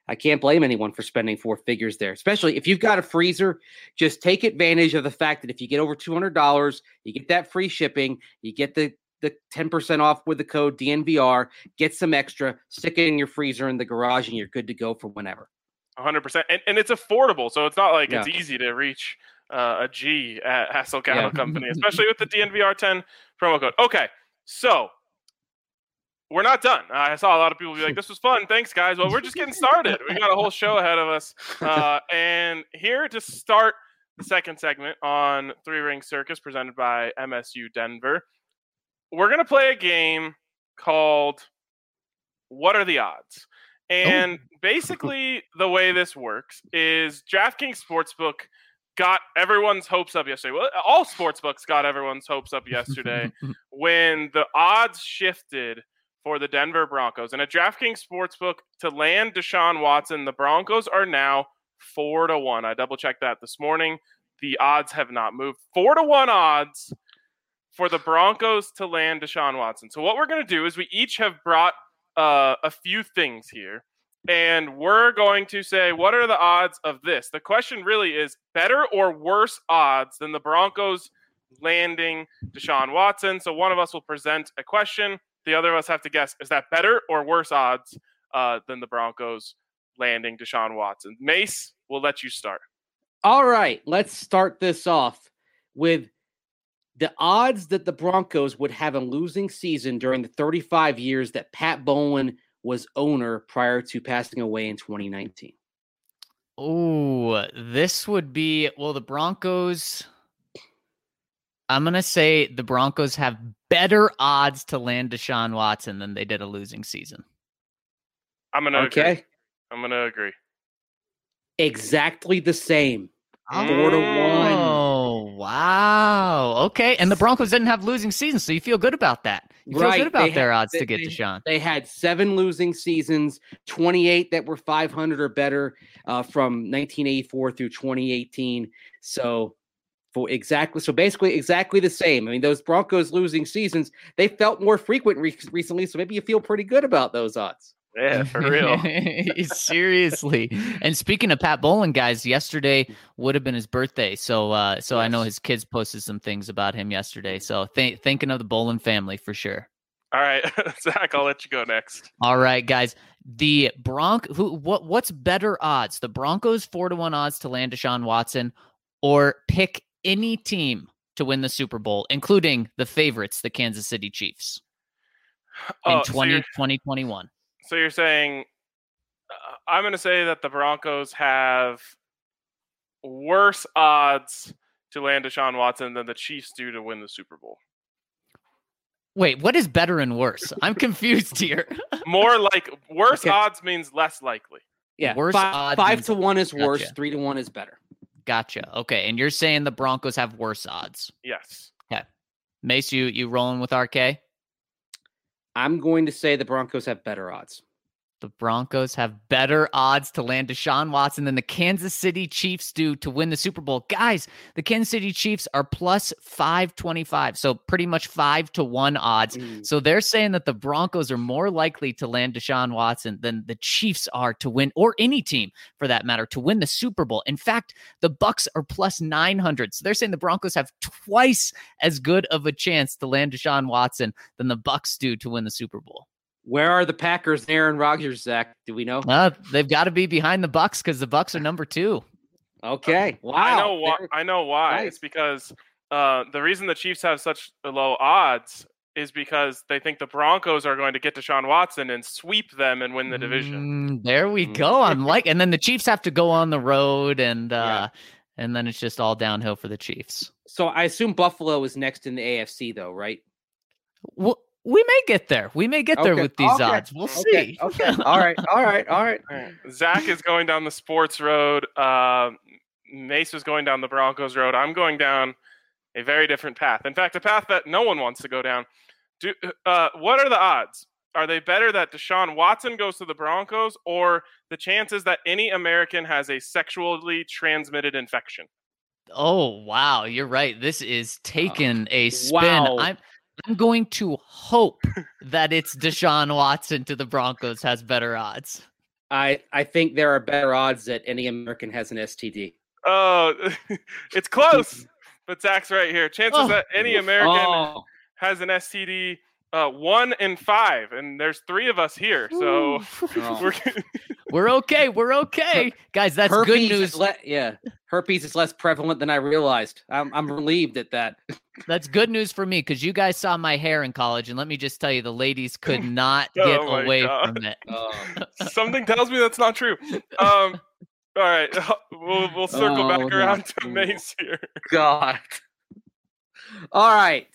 I can't blame anyone for spending four figures there, especially if you've got a freezer. Just take advantage of the fact that if you get over two hundred dollars, you get that free shipping, you get the, the ten percent off with the code D N V R, get some extra, stick it in your freezer in the garage, and you're good to go for whenever. one hundred percent. And, and it's affordable, so it's not like Yeah. it's easy to reach uh, a G at Hassel Cattle Yeah. Company, especially with the D N V R ten promo code. Okay, so we're not done. I saw a lot of people be like, this was fun. Thanks, guys. Well, we're just getting started. We got a whole show ahead of us. Uh, and here to start the second segment on Three Ring Circus presented by M S U Denver, we're going to play a game called What Are the Odds? And oh. basically the way this works is DraftKings Sportsbook got everyone's hopes up yesterday. Well, all sportsbooks got everyone's hopes up yesterday when the odds shifted for the Denver Broncos. And at DraftKings Sportsbook, to land Deshaun Watson, the Broncos are now four to one. I double checked that this morning. The odds have not moved. Four to one odds for the Broncos to land Deshaun Watson. So what we're going to do is we each have brought uh, a few things here, and we're going to say, what are the odds of this? The question really is better or worse odds than the Broncos landing Deshaun Watson. So one of us will present a question. The other of us have to guess, is that better or worse odds uh, than the Broncos landing Deshaun Watson? Mace, we'll let you start. All right, let's start this off with the odds that the Broncos would have a losing season during the thirty-five years that Pat Bowlen was owner prior to passing away in twenty nineteen. Oh, this would be, well, the Broncos... I'm going to say the Broncos have better odds to land Deshaun Watson than they did a losing season. I'm going to okay. agree. I'm going to agree. Exactly the same. Oh, Four to one. Oh, wow. Okay. And the Broncos didn't have losing seasons, so you feel good about that. You right. feel good about they their had, odds they, to get they, Deshaun. They had seven losing seasons, twenty-eight that were five hundred or better uh, from nineteen eighty-four through twenty eighteen. So... For exactly, so basically exactly the same. I mean, those Broncos losing seasons, they felt more frequent re- recently, so maybe you feel pretty good about those odds. Yeah, for real. Seriously. And speaking of Pat Bowlen, guys, yesterday would have been his birthday. So uh, so yes. I know his kids posted some things about him yesterday. So th- thinking of the Bowlen family for sure. All right, Zach, I'll let you go next. All right, guys. The Bronc who what what's better odds? The Broncos four to one odds to land Deshaun Watson, or pick any team to win the Super Bowl, including the favorites, the Kansas City Chiefs, in oh, twenty, so twenty twenty-one. So you're saying, uh, I'm going to say that the Broncos have worse odds to land Deshaun Watson than the Chiefs do to win the Super Bowl. Wait, what is better and worse? I'm confused here. More like worse okay. odds means less likely. Yeah, worse five, odds five means, to one is worse. gotcha. Three to one is better. Gotcha. Okay, and you're saying the Broncos have worse odds. Yes. Okay. Mace, you you rolling with R K? I'm going to say the Broncos have better odds. The Broncos have better odds to land Deshaun Watson than the Kansas City Chiefs do to win the Super Bowl. Guys, the Kansas City Chiefs are plus five twenty-five, so pretty much five to one odds. Mm. So they're saying that the Broncos are more likely to land Deshaun Watson than the Chiefs are to win, or any team for that matter, to win the Super Bowl. In fact, the Bucs are plus nine hundred. So they're saying the Broncos have twice as good of a chance to land Deshaun Watson than the Bucs do to win the Super Bowl. Where are the Packers, Aaron Rodgers, Zach? Do we know? Uh, they've got to be behind the Bucs because the Bucs are number two. Okay. Wow. I know why. I know why. Nice. It's because uh, the reason the Chiefs have such low odds is because they think the Broncos are going to get Deshaun Watson and sweep them and win the division. Mm, there we go. I'm like, and then the Chiefs have to go on the road, and uh, yeah. and then it's just all downhill for the Chiefs. So I assume Buffalo is next in the A F C, though, right? Well, we may get there. We may get there okay. with these okay. odds. We'll okay. see. Okay. All right. All right. All right. All right. Zach is going down the sports road. Uh, Mace is going down the Broncos road. I'm going down a very different path. In fact, a path that no one wants to go down. Do uh, what are the odds? Are they better that Deshaun Watson goes to the Broncos, or the chances that any American has a sexually transmitted infection? Oh, wow. You're right. This is taking a spin. Wow. I'm I'm going to hope that it's Deshaun Watson to the Broncos has better odds. I I think there are better odds that any American has an S T D. Oh, it's close, but Zach's right here. Chances Oh. that any American Oh, has an S T D, uh, one in five, and there's three of us here, so Oh. we're We're okay. We're okay. Guys, that's herpes good is news. le- yeah, herpes is less prevalent than I realized. I'm I'm relieved at that. That's good news for me because you guys saw my hair in college, and let me just tell you, the ladies could not Oh get my away God. from it. Oh, something tells me that's not true. Um, all right, we'll we'll circle Oh, back no. around to Mace here. God. All right.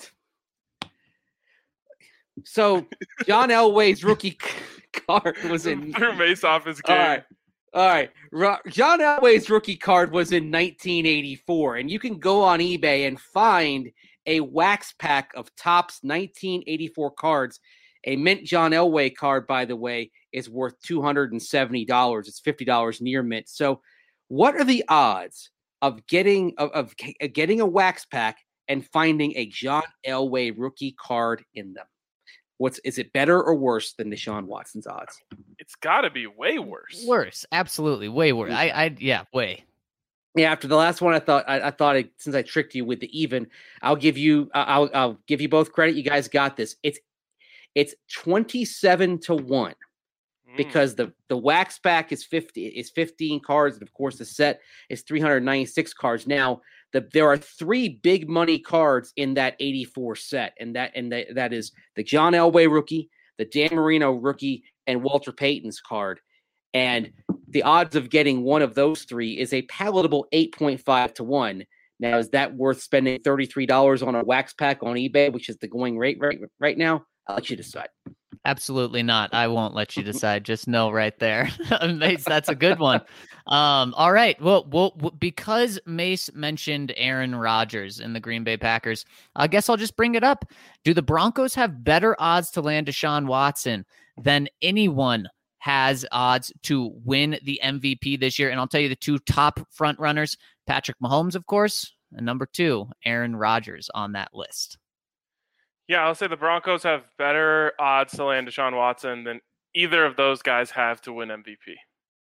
So John Elway's rookie c- card was in. Threw Mace off his All game. right. All right. Ro- John Elway's rookie card was in nineteen eighty-four, and you can go on eBay and find a wax pack of Topps nineteen eighty-four cards. A mint John Elway card, by the way, is worth two hundred seventy dollars. It's fifty dollars near mint. So, what are the odds of getting of, of getting a wax pack and finding a John Elway rookie card in them? What's is it better or worse than Deshaun Watson's odds? It's got to be way worse. Worse, absolutely, way worse. I, I, yeah, way. Yeah, after the last one, I thought I, I thought it, since I tricked you with the even, I'll give you I'll I'll give you both credit. You guys got this. It's it's twenty-seven to one Mm. because the the wax pack is fifty is fifteen cards, and of course the set is three hundred ninety-six cards. Now the there are three big money cards in that eighty-four set, and that and that, that is the John Elway rookie, the Dan Marino rookie, and Walter Payton's card. And the odds of getting one of those three is a palatable eight point five to one. Now, is that worth spending thirty-three dollars on a wax pack on eBay, which is the going rate right, right now? I'll let you decide. Absolutely not. I won't let you decide. Just know right there. Mace, that's a good one. Um, all right. Well, well, because Mace mentioned Aaron Rodgers and the Green Bay Packers, I guess I'll just bring it up. Do the Broncos have better odds to land Deshaun Watson than anyone has odds to win the M V P this year? And I'll tell you the two top front runners, Patrick Mahomes, of course, and number two, Aaron Rodgers on that list. Yeah, I'll say the Broncos have better odds to land Deshaun Watson than either of those guys have to win M V P.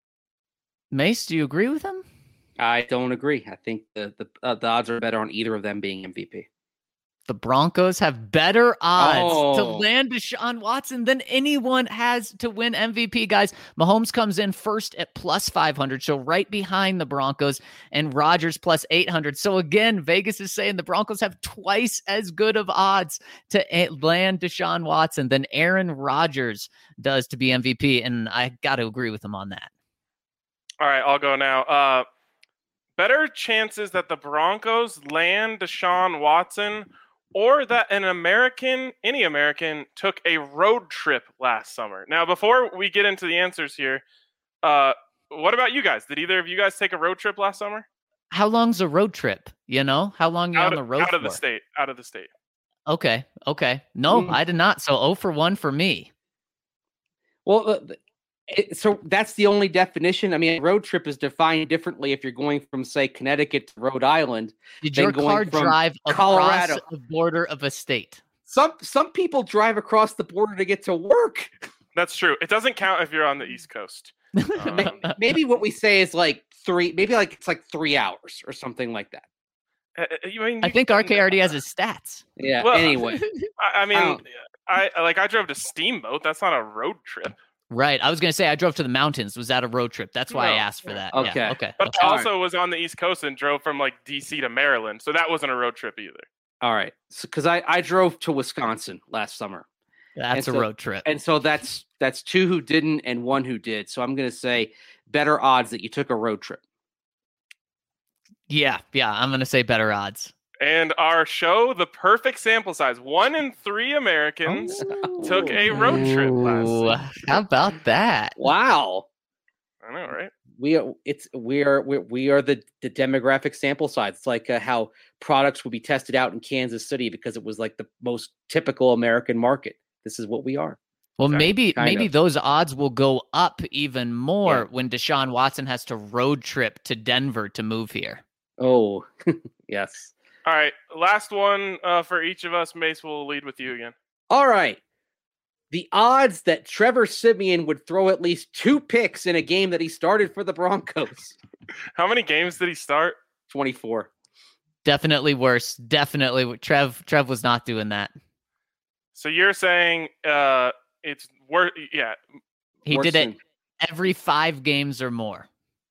Mace, do you agree with him? I don't agree. I think the the, uh, the odds are better on either of them being M V P. The Broncos have better odds to Oh. land Deshaun Watson than anyone has to win M V P, guys. Mahomes comes in first at plus five hundred, so right behind the Broncos, and Rodgers plus eight hundred. So again, Vegas is saying the Broncos have twice as good of odds to land Deshaun Watson than Aaron Rodgers does to be M V P, and I got to agree with him on that. All right, I'll go now. Uh, better chances that the Broncos land Deshaun Watson or that an American, any American, took a road trip last summer. Now, before we get into the answers here, uh, what about you guys? Did either of you guys take a road trip last summer? How long's a road trip? You know, how long you're Out on of, the road out of the for? state. Out of the state. Okay, okay. No, Mm. I did not. So zero for one for me. Well, uh, it, so that's the only definition. I mean, a road trip is defined differently if you're going from, say, Connecticut to Rhode Island. Did Then your going car from drive Colorado. across the border of a state? Some some people drive across the border to get to work. That's true. It doesn't count if you're on the East Coast. Um, Maybe what we say is like three. Maybe like it's like three hours or something like that. I, I mean, I you think can- R K already has his stats. Yeah. Well, anyway, I, I mean, Oh. I like I drove to Steamboat. That's not a road trip. Right. I was going to say I drove to the mountains. Was that a road trip? That's why I No. asked for that. Okay. Yeah, okay. But okay. I All also was on the East Coast and drove from like D C to Maryland, so that wasn't a road trip either. all right. Because I I drove to Wisconsin last summer, That's a and so- road trip. and so that's that's two who didn't and one who did. So I'm going to say better odds that you took a road trip. Yeah. Yeah. I'm going to say better odds. And our show, the perfect sample size, one in three Americans took a road trip last Ooh, season. how about that? Wow. I know, right? We are it's we are we, we are the the demographic sample size. It's like uh, how products would be tested out in Kansas City because it was like the most typical American market. This is what we are. Well, Kind- maybe kind maybe of. those odds will go up even more Yeah. when Deshaun Watson has to road trip to Denver to move here. Oh, yes. All right, last one uh, for each of us. Mace will lead with you again. All right. the odds that Trevor Siemian would throw at least two picks in a game that he started for the Broncos. How many games did he start? twenty-four. Definitely worse. Definitely. Trev Trev was not doing that. So you're saying uh, it's worse? Yeah. He Worse did it than- every five games or more.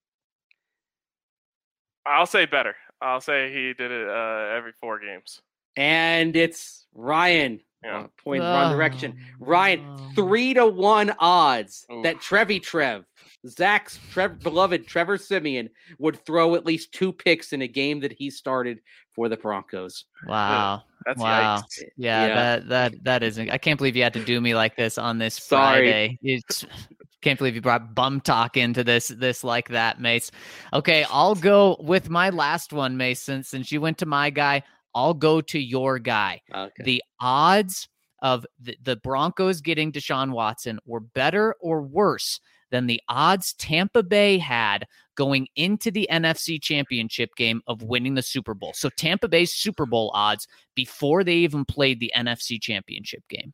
I'll say better. I'll say he did it uh, every four games. And it's Ryan. Yeah. Uh, point in the wrong direction. Oh, Ryan, no. three to one odds Oof. that Trevi Trev, Zach's Trev, beloved Trevor Siemian, would throw at least two picks in a game that he started for the Broncos. Wow. That's Wow. yikes. Yeah, Yeah. that that that isn't. I can't believe you had to do me like this on this Sorry. Friday. It's can't believe you brought bum talk into this this like that, Mace. Okay, I'll go with my last one, Mason. Since you went to my guy, I'll go to your guy. Okay. The odds of the, the Broncos getting Deshaun Watson were better or worse than the odds Tampa Bay had going into the N F C Championship game of winning the Super Bowl. So Tampa Bay's Super Bowl odds before they even played the N F C Championship game.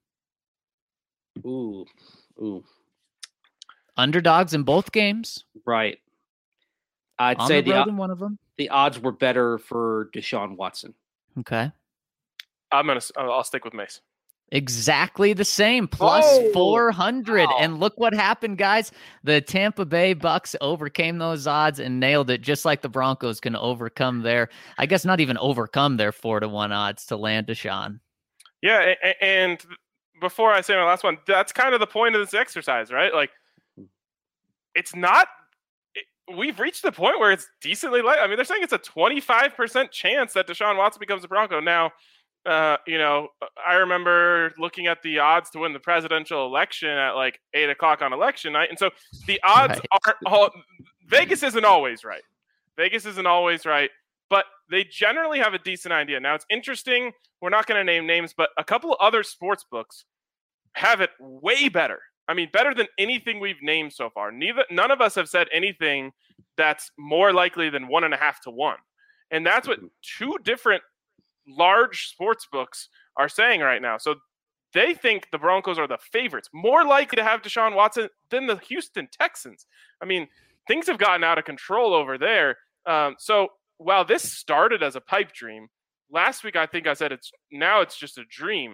Ooh. Ooh. Underdogs in both games. Right. I'd On say the the, road o- in one of them. the odds were better for Deshaun Watson. Okay. I'm gonna. I'll stick with Mace. Exactly the same, plus Oh, four hundred. wow. And look what happened, guys. The Tampa Bay Bucks overcame those odds and nailed it, just like the Broncos can overcome their, I guess not even overcome their four to one odds to land Deshaun. Yeah, a- a- and before I say my last one, that's kind of the point of this exercise, right? Like, it's not. It, we've reached the point where it's decently light. I mean, they're saying it's a twenty-five percent chance that Deshaun Watson becomes a Bronco. Now, uh, you know, I remember looking at the odds to win the presidential election at like eight o'clock on election night, and so the odds Right. are all. Vegas isn't always right. Vegas isn't always right, but they generally have a decent idea. Now, it's interesting. We're not going to name names, but a couple of other sports books have it way better. I mean, better than anything we've named so far. Neither, none of us have said anything that's more likely than one and a half to one, and that's what two different large sports books are saying right now. So they think the Broncos are the favorites, more likely to have Deshaun Watson than the Houston Texans. I mean, things have gotten out of control over there. Um, so while this started as a pipe dream, last week I think I said it's now it's just a dream.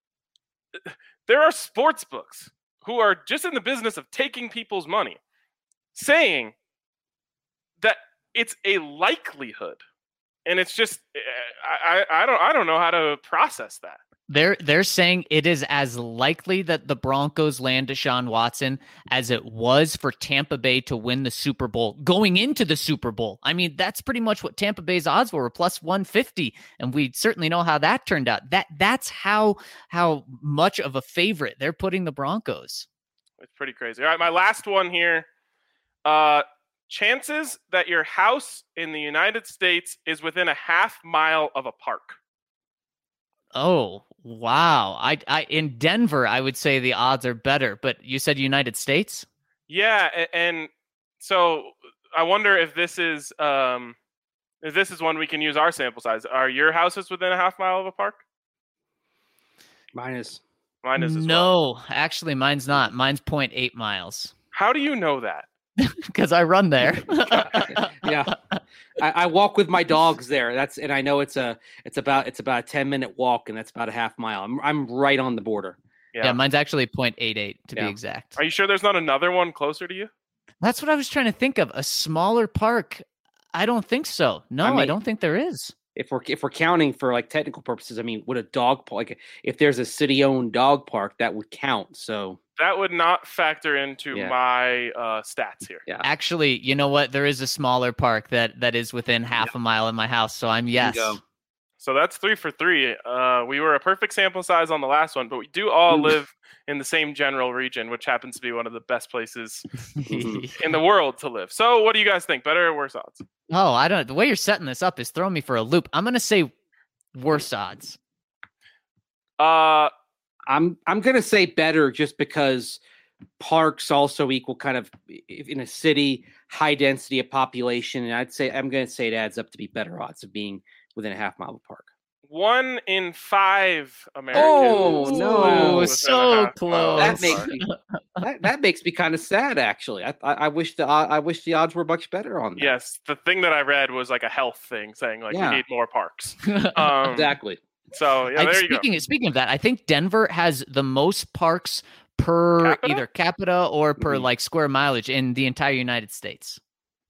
There are sports books who are just in the business of taking people's money, saying that it's a likelihood. And it's just, I, I, I don't, I don't know how to process that. They're they're saying it is as likely that the Broncos land Deshaun Watson as it was for Tampa Bay to win the Super Bowl going into the Super Bowl. I mean, that's pretty much what Tampa Bay's odds were, plus one fifty, and we certainly know how that turned out. That that's how how much of a favorite they're putting the Broncos. It's pretty crazy. All right, my last one here. Uh, chances that your house in the United States is within a half mile of a park. Oh, wow. I, I in Denver, I would say the odds are better, but you said United States? Yeah, a- and so I wonder if this is um, if this is one we can use our sample size. Are your houses within a half mile of a park? Mine is. Mine is as well. No, actually, mine's not. Mine's zero point eight miles How do you know that? because I run there. Yeah. I, I walk with my dogs there. That's and I know it's a it's about it's about a ten minute walk, and that's about a half mile. I'm I'm right on the border. Yeah. Yeah, mine's actually zero point eight eight to Yeah. be exact. Are you sure there's not another one closer to you? That's what I was trying to think of. A smaller park. I don't think so. No, I, mean- don't think there is. If we're if we're counting for like technical purposes, I mean, would a dog park like if there's a city owned dog park that would count? So That would not factor into Yeah. my uh, stats here. yeah, Actually, you know what? There is a smaller park that that is within half a mile of my house. So I'm yes. go. So that's three for three. Uh, we were a perfect sample size on the last one, but we do all Oof. live in the same general region, which happens to be one of the best places Mhm. in the world to live. So what do you guys think? Better or worse odds? Oh, I don't. The way you're setting this up is throwing me for a loop. I'm gonna say worse odds. Uh, I'm I'm gonna say better just because parks also equal kind of if in a city high density of population, and I'd say I'm gonna say it adds up to be better odds of being within a half mile of a park. one in five Americans. Oh, no. within So a half close. mile. That makes me that, that makes me kind of sad, actually. I, I I wish the I wish the odds were much better on that. Yes, the thing that I read was like a health thing, saying like Yeah. we need more parks. Um, Exactly. So yeah, I- there you go. speaking speaking of that, I think Denver has the most parks per Capita? either capita or per Mhm. like square mileage in the entire United States.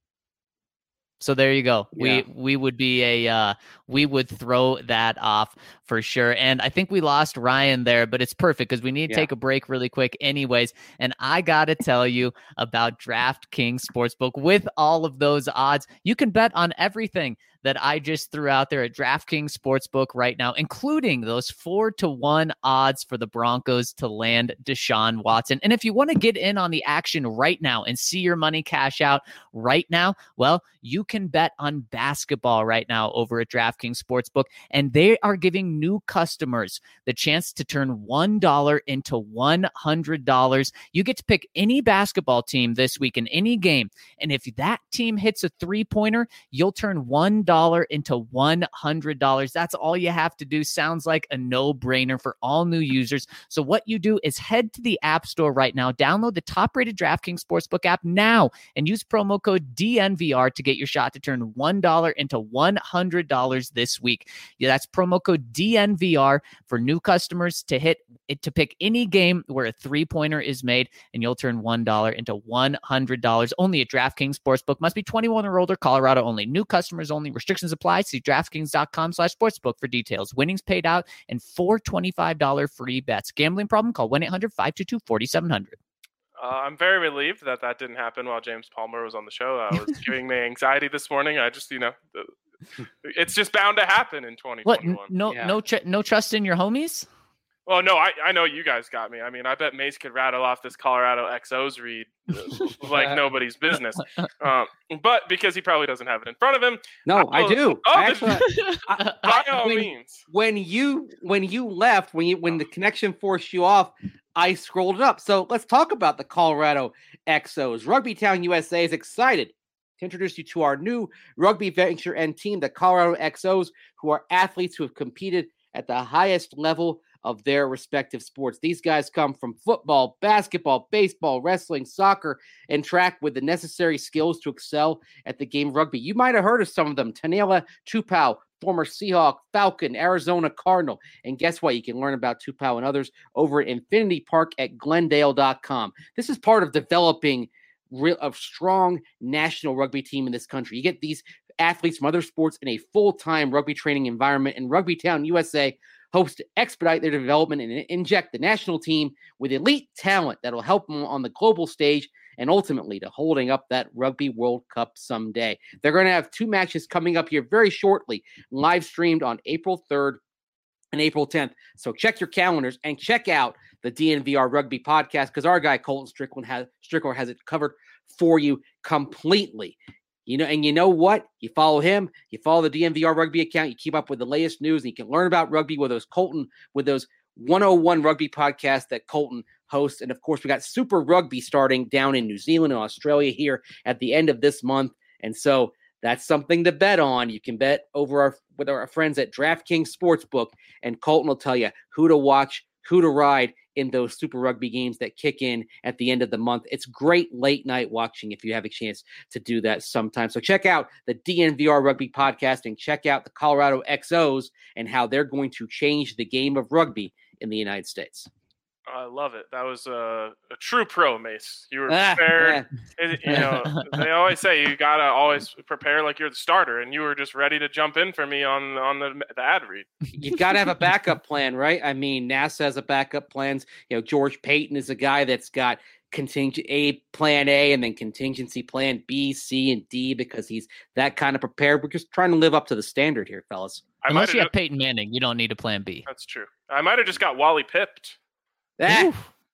So there you go. Yeah. We we would be a uh, we would throw that off for sure. And I think we lost Ryan there, but it's perfect because we need to Yeah. take a break really quick anyways. And I gotta tell you about DraftKings Sportsbook. With all of those odds, you can bet on everything that I just threw out there at DraftKings Sportsbook right now, including those four to one odds for the Broncos to land Deshaun Watson. And if you want to get in on the action right now and see your money cash out right now, well, you can bet on basketball right now over at DraftKings Sportsbook, and they are giving new customers the chance to turn one dollar into one hundred dollars. You get to pick any basketball team this week in any game, and if that team hits a three-pointer, you'll turn one dollar into one hundred dollars. That's all you have to do. Sounds like a no-brainer for all new users. So what you do is head to the App Store right now, download the top-rated DraftKings Sportsbook app now, and use promo code D N V R to get your shot to turn one dollar into one hundred dollars this week. Yeah, that's promo code D N V R for new customers to hit it to pick any game where a three-pointer is made, and you'll turn one dollar into one hundred dollars. Only at DraftKings Sportsbook. Must be twenty-one or older. Colorado only. New customers only. Restrictions apply. See DraftKings.com slash sportsbook for details. Winnings paid out and four twenty-five dollars free bets. Gambling problem? Call one eight hundred five two two four seven zero zero. Uh, I'm very relieved that that didn't happen while James Palmer was on the show. I was giving me anxiety this morning. I just, you know, the, it's just bound to happen in twenty twenty-one. What? No, Yeah. no, tr- no trust in your homies? Well, no, I, I know you guys got me. I mean, I bet Mace could rattle off this Colorado X Os read uh, like nobody's business. Um, but because he probably doesn't have it in front of him, No, I Oh, do. oh, I actually, I- by I- all when, means. when you when you left, when you when the connection forced you off, I scrolled it up. So let's talk about the Colorado X Os. Rugby Town U S A is excited to introduce you to our new rugby venture and team, the Colorado X Os, who are athletes who have competed at the highest level of their respective sports. These guys come from football, basketball, baseball, wrestling, soccer, and track with the necessary skills to excel at the game of rugby. You might have heard of some of them. Tanela Tupou, former Seahawk, Falcon, Arizona Cardinal. And guess what? You can learn about Tupou and others over at Infinity Park at Glendale dot com. This is part of developing real, a strong national rugby team in this country. You get these athletes from other sports in a full-time rugby training environment, and Rugby Town U S A hopes to expedite their development and inject the national team with elite talent that will help them on the global stage and ultimately to holding up that Rugby World Cup someday. They're going to have two matches coming up here very shortly, live streamed on April third and April tenth. So check your calendars and check out the D N V R Rugby podcast because our guy Colton Strickland has Strickler has it covered for you completely. You know, and you know what? You follow him, you follow the D N V R Rugby account, you keep up with the latest news, and you can learn about rugby with those Colton, with those one oh one Rugby podcasts that Colton hosts. And of course, we got Super Rugby starting down in New Zealand and Australia here at the end of this month. And so that's something to bet on. You can bet over our with our friends at DraftKings Sportsbook, and Colton will tell you who to watch, who to ride in those Super Rugby games that kick in at the end of the month. It's great late night watching if you have a chance to do that sometime. So check out the D N V R Rugby podcast and check out the Colorado X Os and how they're going to change the game of rugby in the United States. I love it. That was a, a true pro, Mace. You were Ah, prepared. yeah. It- you know, they always say you gotta always prepare like you're the starter, and you were just ready to jump in for me on on the, the ad read. You've got to have a backup plan, right? I mean, NASA has a backup plans. You know, George Payton is a guy that's got contingent A plan A and then contingency plan B, C, and D because he's that kind of prepared. We're just trying to live up to the standard here, fellas. I Unless might you have. have Peyton Manning, you don't need a plan B. That's true. I might have just got Wally pipped. Ah,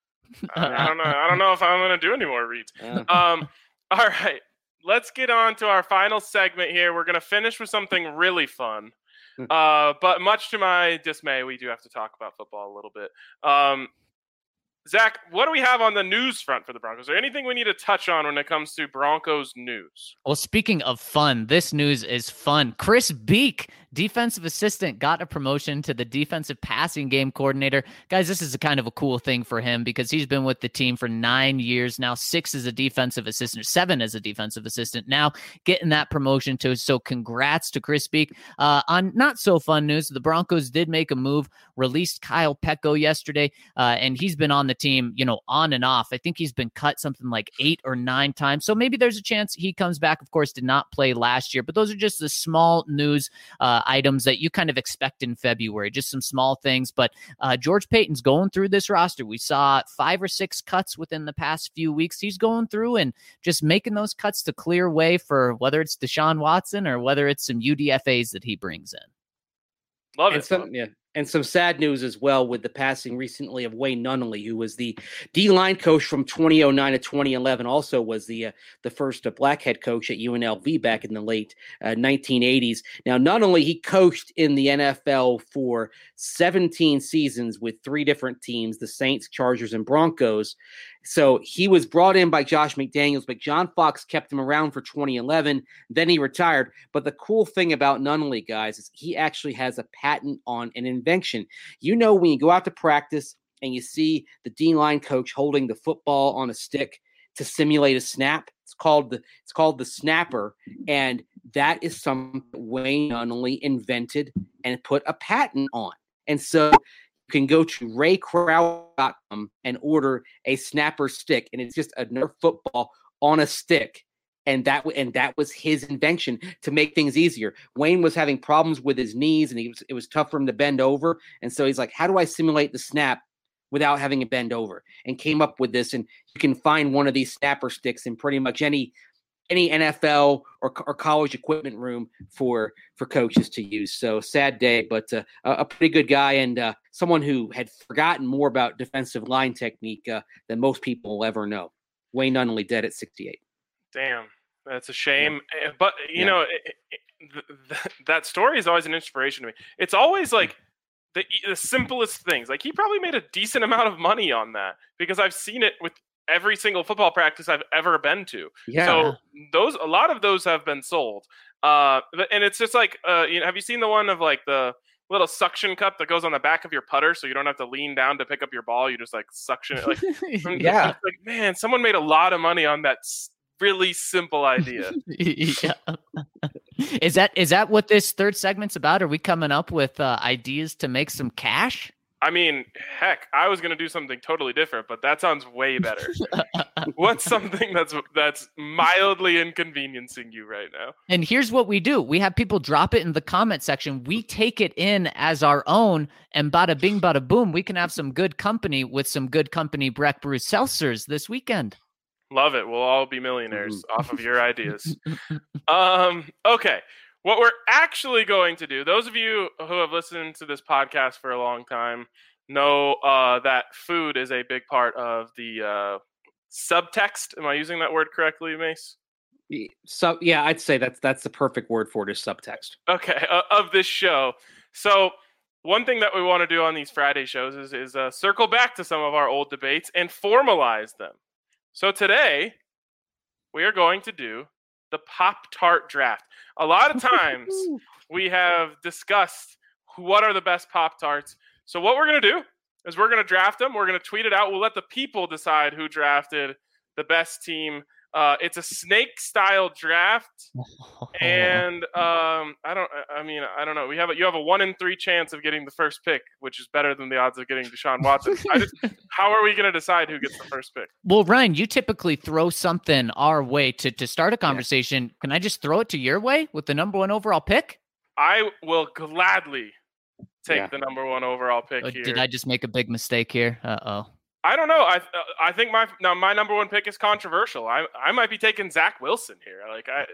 I, I don't know. I don't know if I'm gonna do any more reads. uh, Um, all right, let's get on to our final segment here. We're gonna finish with something really fun. Uh, but much to my dismay, we do have to talk about football a little bit. Um, Zach, what do we have on the news front for the Broncos? Is there anything we need to touch on when it comes to Broncos news? Well, speaking of fun, this news is fun. Chris Beek defensive assistant, got a promotion to the defensive passing game coordinator. Guys, this is a kind of a cool thing for him because he's been with the team for nine years now, six as a defensive assistant, seven as a defensive assistant, now getting that promotion too. So congrats to Chris Beek. Uh, on not so fun news, the Broncos did make a move, released Kyle Petco yesterday, uh, and he's been on the team, you know, on and off. I think he's been cut something like eight or nine times. So maybe there's a chance he comes back. Of course, did not play last year, but those are just the small news uh, items that you kind of expect in February, just some small things. But uh, George Paton's going through this roster. We saw five or six cuts within the past few weeks. He's going through and just making those cuts to clear way for whether it's Deshaun Watson or whether it's some U D F As that he brings in. Love and it. Some, yeah. And some sad news as well with the passing recently of Wayne Nunnally, who was the D-line coach from twenty oh nine to twenty eleven, also was the uh, the first uh, black head coach at U N L V back in the late uh, nineteen eighties. Now, not only he coached in the N F L for seventeen seasons with three different teams, the Saints, Chargers, and Broncos. So he was brought in by Josh McDaniels, but John Fox kept him around for twenty eleven. Then he retired. But the cool thing about Nunnally, guys, is he actually has a patent on an invention. You know, when you go out to practice and you see the D-line coach holding the football on a stick to simulate a snap, it's called the it's called the snapper, and that is something Wayne Nunnally invented and put a patent on. And so you can go to ray crowell dot com and order a snapper stick, and it's just a Nerf football on a stick. And that and that was his invention to make things easier. Wayne was having problems with his knees, and he was, it was tough for him to bend over. And so he's like, how do I simulate the snap without having to bend over? And came up with this. And you can find one of these snapper sticks in pretty much any any N F L or, or college equipment room for for coaches to use. So sad day, but uh, a pretty good guy and uh, someone who had forgotten more about defensive line technique uh, than most people will ever know. Wayne Nunnally dead at sixty-eight. Damn, that's a shame. Yeah. But, you yeah. know, it, it, th- that story is always an inspiration to me. It's always like the, the simplest things. Like, he probably made a decent amount of money on that because I've seen it with every single football practice I've ever been to. Yeah. So those, a lot of those have been sold. Uh, and it's just like, uh, you know, have you seen the one of like the little suction cup that goes on the back of your putter so you don't have to lean down to pick up your ball? You just like suction it. Like, yeah. Like, man, someone made a lot of money on that really simple idea. yeah. Is that is that what this third segment's about? Are we coming up with uh, ideas to make some cash? I mean, heck, I was going to do something totally different, but that sounds way better. What's something that's that's mildly inconveniencing you right now? And here's what we do. We have people drop it in the comment section. We take it in as our own, and bada bing, bada boom, we can have some good company with some good company Breck Brew seltzers this weekend. Love it. We'll all be millionaires off of your ideas. Um, okay. What we're actually going to do, those of you who have listened to this podcast for a long time know uh, that food is a big part of the uh, subtext. Am I using that word correctly, Mace? So yeah, I'd say that's that's the perfect word for it is subtext. Okay, uh, of this show. So one thing that we want to do on these Friday shows is, is uh, circle back to some of our old debates and formalize them. So today, we are going to do the Pop-Tart draft. A lot of times, we have discussed what are the best Pop-Tarts. So what we're going to do is we're going to draft them. We're going to tweet it out. We'll let the people decide who drafted the best team. Uh, it's a snake-style draft, and um, I don't. I mean, I don't know. We have a, you have a one in three chance of getting the first pick, which is better than the odds of getting Deshaun Watson. I just, how are we going to decide who gets the first pick? Well, Ryan, you typically throw something our way to to start a conversation. Yeah. Can I just throw it to your way with the number one overall pick? I will gladly take yeah. the number one overall pick oh, here. Did I just make a big mistake here? Uh oh. I don't know. I uh, I think my now my number one pick is controversial. I I might be taking Zach Wilson here. Like I.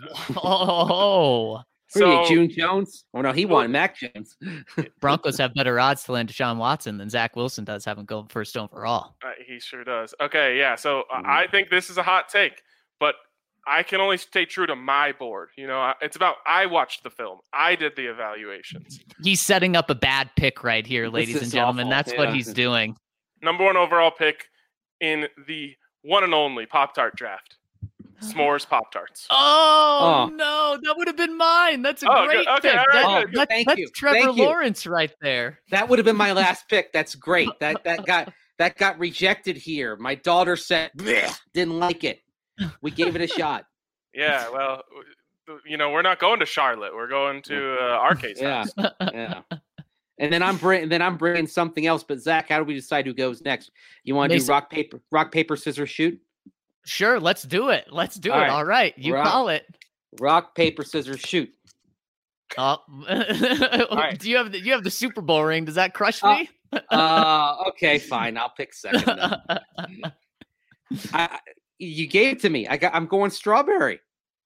Oh. So June Jones? Oh no, he won. Mac Jones. Broncos have better odds to land Deshaun Watson than Zach Wilson does having going first overall. Uh, he sure does. Okay, yeah. So uh, mm-hmm. I think this is a hot take, but I can only stay true to my board. You know, it's about I watched the film. I did the evaluations. He's setting up a bad pick right here, ladies and gentlemen. Awful. That's yeah. what he's doing. Number one overall pick in the one and only Pop-Tart draft. s'mores Pop Tarts. Oh, Oh. no, that would have been mine. That's a Oh, great good. Okay, pick. all right, That- good. that- Thank that's you. Trevor Thank you. Lawrence right there. That would have been my last pick. That's great. That that got that got rejected here. My daughter said "Bleh," didn't like it. We gave it a shot. Yeah, well, w- you know, we're not going to Charlotte. We're going to uh, Arcade's Yeah, house. yeah. And then I'm bringing then I'm bringing something else. But Zach, how do we decide who goes next? You want to do Mason- rock paper rock paper scissors shoot? Sure, let's do it. Let's do All it. right. All right, you Rock- call it. Rock paper scissors shoot. Oh, right. do you have the, you have the Super Bowl ring? Does that crush Uh, me? Uh, okay, fine. I'll pick second. Then. I, I- you gave it to me. I got. I'm going strawberry.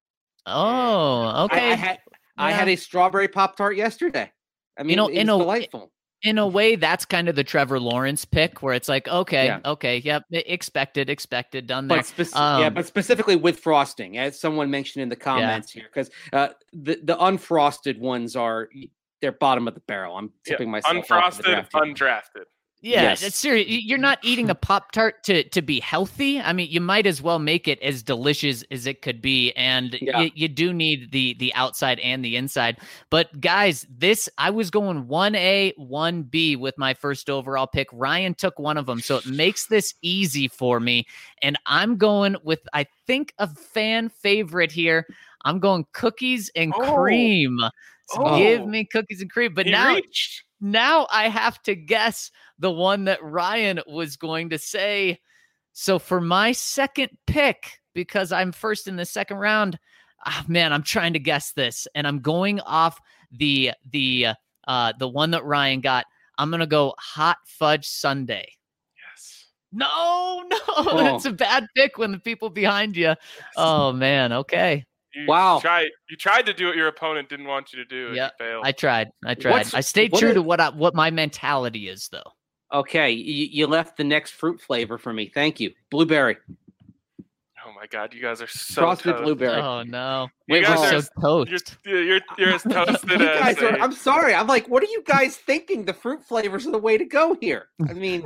oh, I, okay. I had I Yeah. had a strawberry Pop Tart yesterday. I mean, know, it in was a- delightful. In a way, that's kind of the Trevor Lawrence pick, where it's like, okay, Yeah. okay, yep, e- expected, expected, done there. But spec- yeah, Um, but specifically with frosting, as someone mentioned in the comments here, because uh, the the unfrosted ones are they're bottom of the barrel. I'm Yeah, tipping myself off of the Unfrosted, draft here. undrafted. Yeah, Yes. it's serious. Y- You're not eating a Pop Tart to to be healthy. I mean, you might as well make it as delicious as it could be, and Yeah. you, you do need the the outside and the inside. But guys, this I was going one A, one B with my first overall pick. Ryan took one of them, so it makes this easy for me. And I'm going with I think a fan favorite here. I'm going cookies and Oh. cream. So Oh. give me cookies and cream. But He now reached. now I have to guess the one that Ryan was going to say. So for my second pick, because I'm first in the second round, ah, man, I'm trying to guess this, and I'm going off the the uh, the one that Ryan got. I'm gonna go hot fudge sundae. Yes. No, no, Oh. that's a bad pick when the people behind you. Oh man, okay, You Wow. Tried, you tried to do what your opponent didn't want you to do. And Yeah, you failed. I tried, I tried. What's- I stayed what true is- to what I, what my mentality is, though. Okay, you, you left the next fruit flavor for me. Thank you. Blueberry, Oh my God, you guys are so frosted toast. blueberry. Oh no, You Wait, guys hold are on. so toast. You're, you're, you're as toasted You as guys are, a- I'm sorry. I'm like, what are you guys thinking? The fruit flavors are the way to go here. I mean,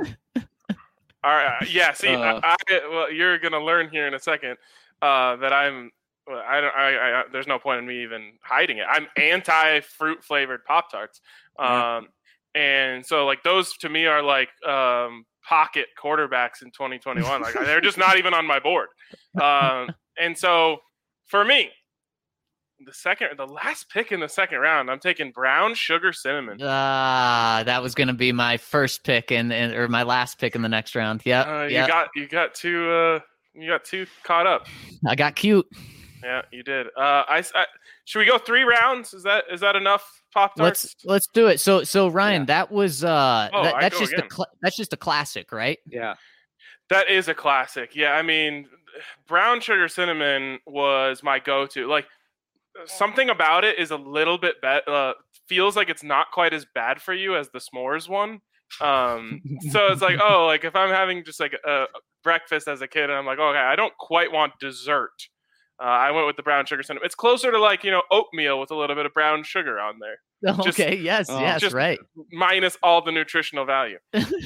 All right, yeah. See, Uh. I, I well, you're gonna learn here in a second uh, that I'm. Well, I don't. I, I. There's no point in me even hiding it. I'm anti fruit flavored Pop Tarts, Yeah. um, and so like those to me are like um, pocket quarterbacks in twenty twenty-one. Like they're just not even on my board. Um, and so for me, the second, the last pick in the second round, I'm taking brown sugar cinnamon. Ah, that was going to be my first pick and in, or my last pick in the next round. Yep, Uh, you yep. got you got two. Uh, you got two caught up. I got cute. Yeah, you did. Uh, I, I should we go three rounds? Is that is that enough Pop Tarts? Let's let's do it. So so Ryan, Yeah. that was uh Oh, that, I that's go just a again. cl- that's just a classic, right? yeah. That is a classic. Yeah, I mean, brown sugar cinnamon was my go-to. Like something about it is a little bit bad. Uh, feels like it's not quite as bad for you as the s'mores one. Um, so it's like, oh, like if I'm having just like a, a breakfast as a kid, and I'm like, okay, I don't quite want dessert. Uh, I went with the brown sugar cinnamon. It's closer to like you know oatmeal with a little bit of brown sugar on there, Just- Okay, yes, oh, yes, just- right. minus all the nutritional value.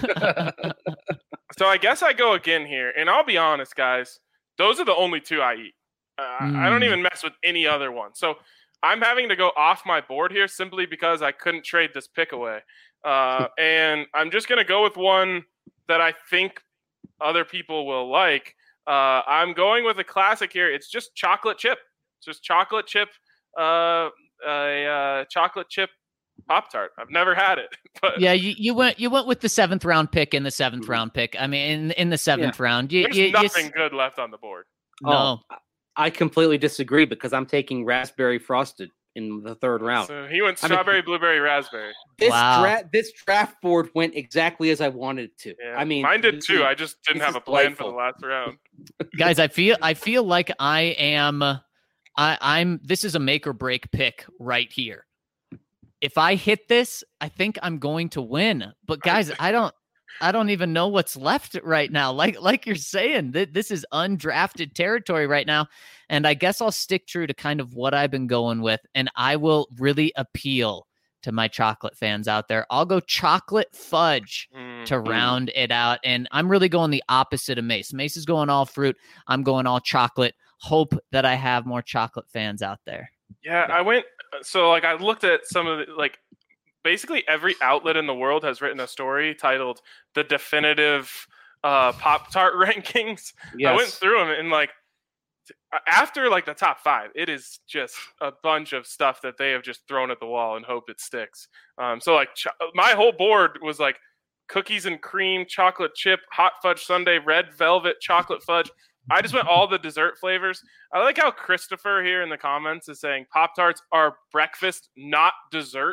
So I guess I go again here, and I'll be honest, guys. Those are the only two I eat. Uh, I don't Mm. even mess with any other one. So I'm having to go off my board here simply because I couldn't trade this pick away, uh, and I'm just gonna go with one that I think other people will like. Uh, I'm going with a classic here. It's just chocolate chip. It's just chocolate chip. Uh, a uh, chocolate chip Pop Tart. I've never had it, but Yeah, you, you went you went with the seventh round pick in the seventh Mhm. round pick. I mean, in in the seventh round, you, there's you, you s- nothing good left on the board. no. Oh, I completely disagree because I'm taking raspberry frosted in the third round. So he went I mean- strawberry, blueberry, raspberry. This Wow. dra- this draft board went exactly as I wanted it to. Yeah. I mean, mine did this too. is- I just didn't this have is a plan for delightful. the last round. Guys, I feel I feel like I am I I'm this is a make or break pick right here. If I hit this, I think I'm going to win. But guys, I don't I don't even know what's left right now. Like like you're saying, th- this is undrafted territory right now. And I guess I'll stick true to kind of what I've been going with, and I will really appeal to my chocolate fans out there. I'll go chocolate fudge. Mm. to round it out. And I'm really going the opposite of Mace. Mace is going all fruit. I'm going all chocolate. Hope that I have more chocolate fans out there. Yeah, I went. So like I looked at some of the, like basically every outlet in the world has written a story titled "The Definitive uh, Pop-Tart Rankings." Yes. I went through them and like after like the top five, it is just a bunch of stuff that they have just thrown at the wall and hope it sticks. Um, so like ch- my whole board was like cookies and cream, chocolate chip, hot fudge sundae, red velvet, chocolate fudge. I just went all the dessert flavors. I like how Christopher here in the comments is saying Pop-Tarts are breakfast, not dessert.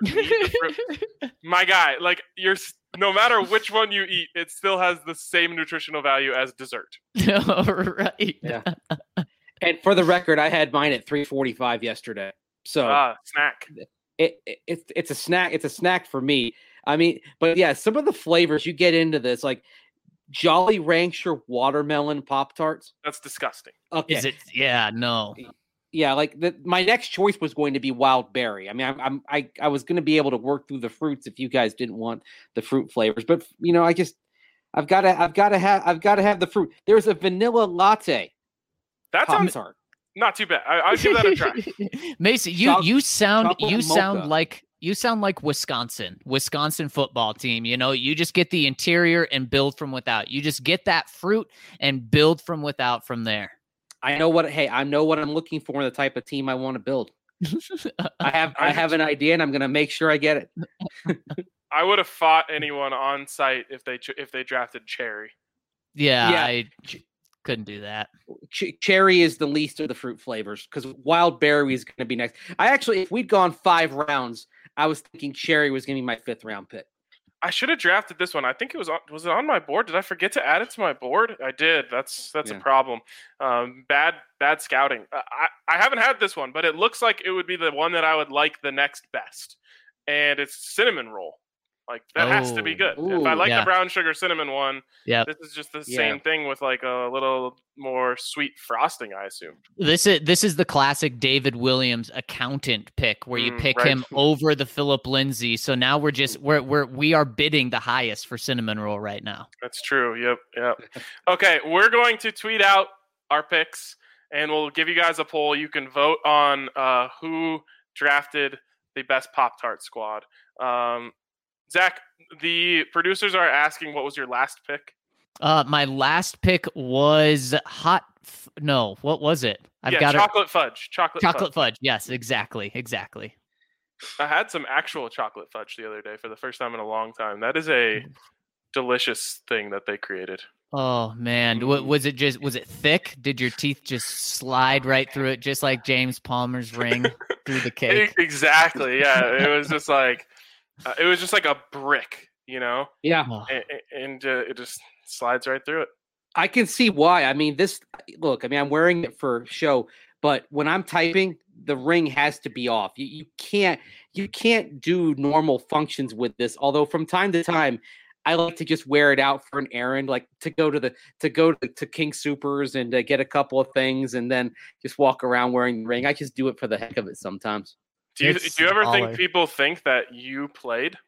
My guy, like you're no matter which one you eat, it still has the same nutritional value as dessert. Right. Yeah. And for the record, I had mine at three forty-five yesterday. So uh, snack. It, it, it it's a snack. It's a snack for me. I mean, but yeah, some of the flavors you get into this, like Jolly Rancher watermelon Pop-Tarts. That's disgusting. Okay. Is it? Yeah, no. Yeah, like the, my next choice was going to be wild berry. I mean, I'm, I'm I I was going to be able to work through the fruits if you guys didn't want the fruit flavors, but you know, I just I've got to I've got to have I've got to have the fruit. There's a vanilla latte. That sounds Pop-Tart. Not too bad. I, I'll give that a try. Mason, you Choc- you sound you mocha. sound like you sound like Wisconsin, Wisconsin football team. You know, you just get the interior and build from without. You just get that fruit and build from without from there. I know what. Hey, I know what I'm looking for in the type of team I want to build. I have I have an idea, and I'm going to make sure I get it. I would have fought anyone on site if they if they drafted Cherry. Yeah, Yeah. I couldn't do that. Ch- cherry is the least of the fruit flavors because wild berry is going to be next. I actually, if we'd gone five rounds, I was thinking cherry was going to be my fifth round pick. I should have drafted this one. I think it was on, was it on my board? Did I forget to add it to my board? I did. That's that's Yeah. a problem. Um, bad bad scouting. Uh, I I haven't had this one, but it looks like it would be the one that I would like the next best, and it's cinnamon roll. Like that has to be good. Ooh, if I like yeah. the brown sugar cinnamon one, Yeah. this is just the Yeah. same thing with like a little more sweet frosting, I assume. This is this is the classic David Williams accountant pick where you Mm, pick right. him over the Philip Lindsay. So now we're just we're we're we are bidding the highest for cinnamon roll right now. That's true. Yep. Yep. Okay, we're going to tweet out our picks, and we'll give you guys a poll. You can vote on uh, who drafted the best Pop-Tart squad. Um, Zach, the producers are asking, what was your last pick? Uh, my last pick was hot. F- no, what was it? I've yeah, got chocolate fudge. Chocolate, it. Chocolate fudge. fudge. Yes, exactly, exactly. I had some actual chocolate fudge the other day for the first time in a long time. That is a delicious thing that they created. Oh man, Mm. what was it? Just was it thick? Did your teeth just slide right through it, just like James Palmer's ring through the cake? Exactly. Yeah, it was just like uh, it was just like a brick, you know, Yeah, Oh, and, and uh, it just slides right through it. I can see why. I mean, this look. I mean, I'm wearing it for show, but when I'm typing, the ring has to be off. You, you can't you can't do normal functions with this. Although from time to time, I like to just wear it out for an errand, like to go to the to go to, to King Supers and uh, get a couple of things, and then just walk around wearing the ring. I just do it for the heck of it sometimes. Do you It's do you ever baller. think people think that you played,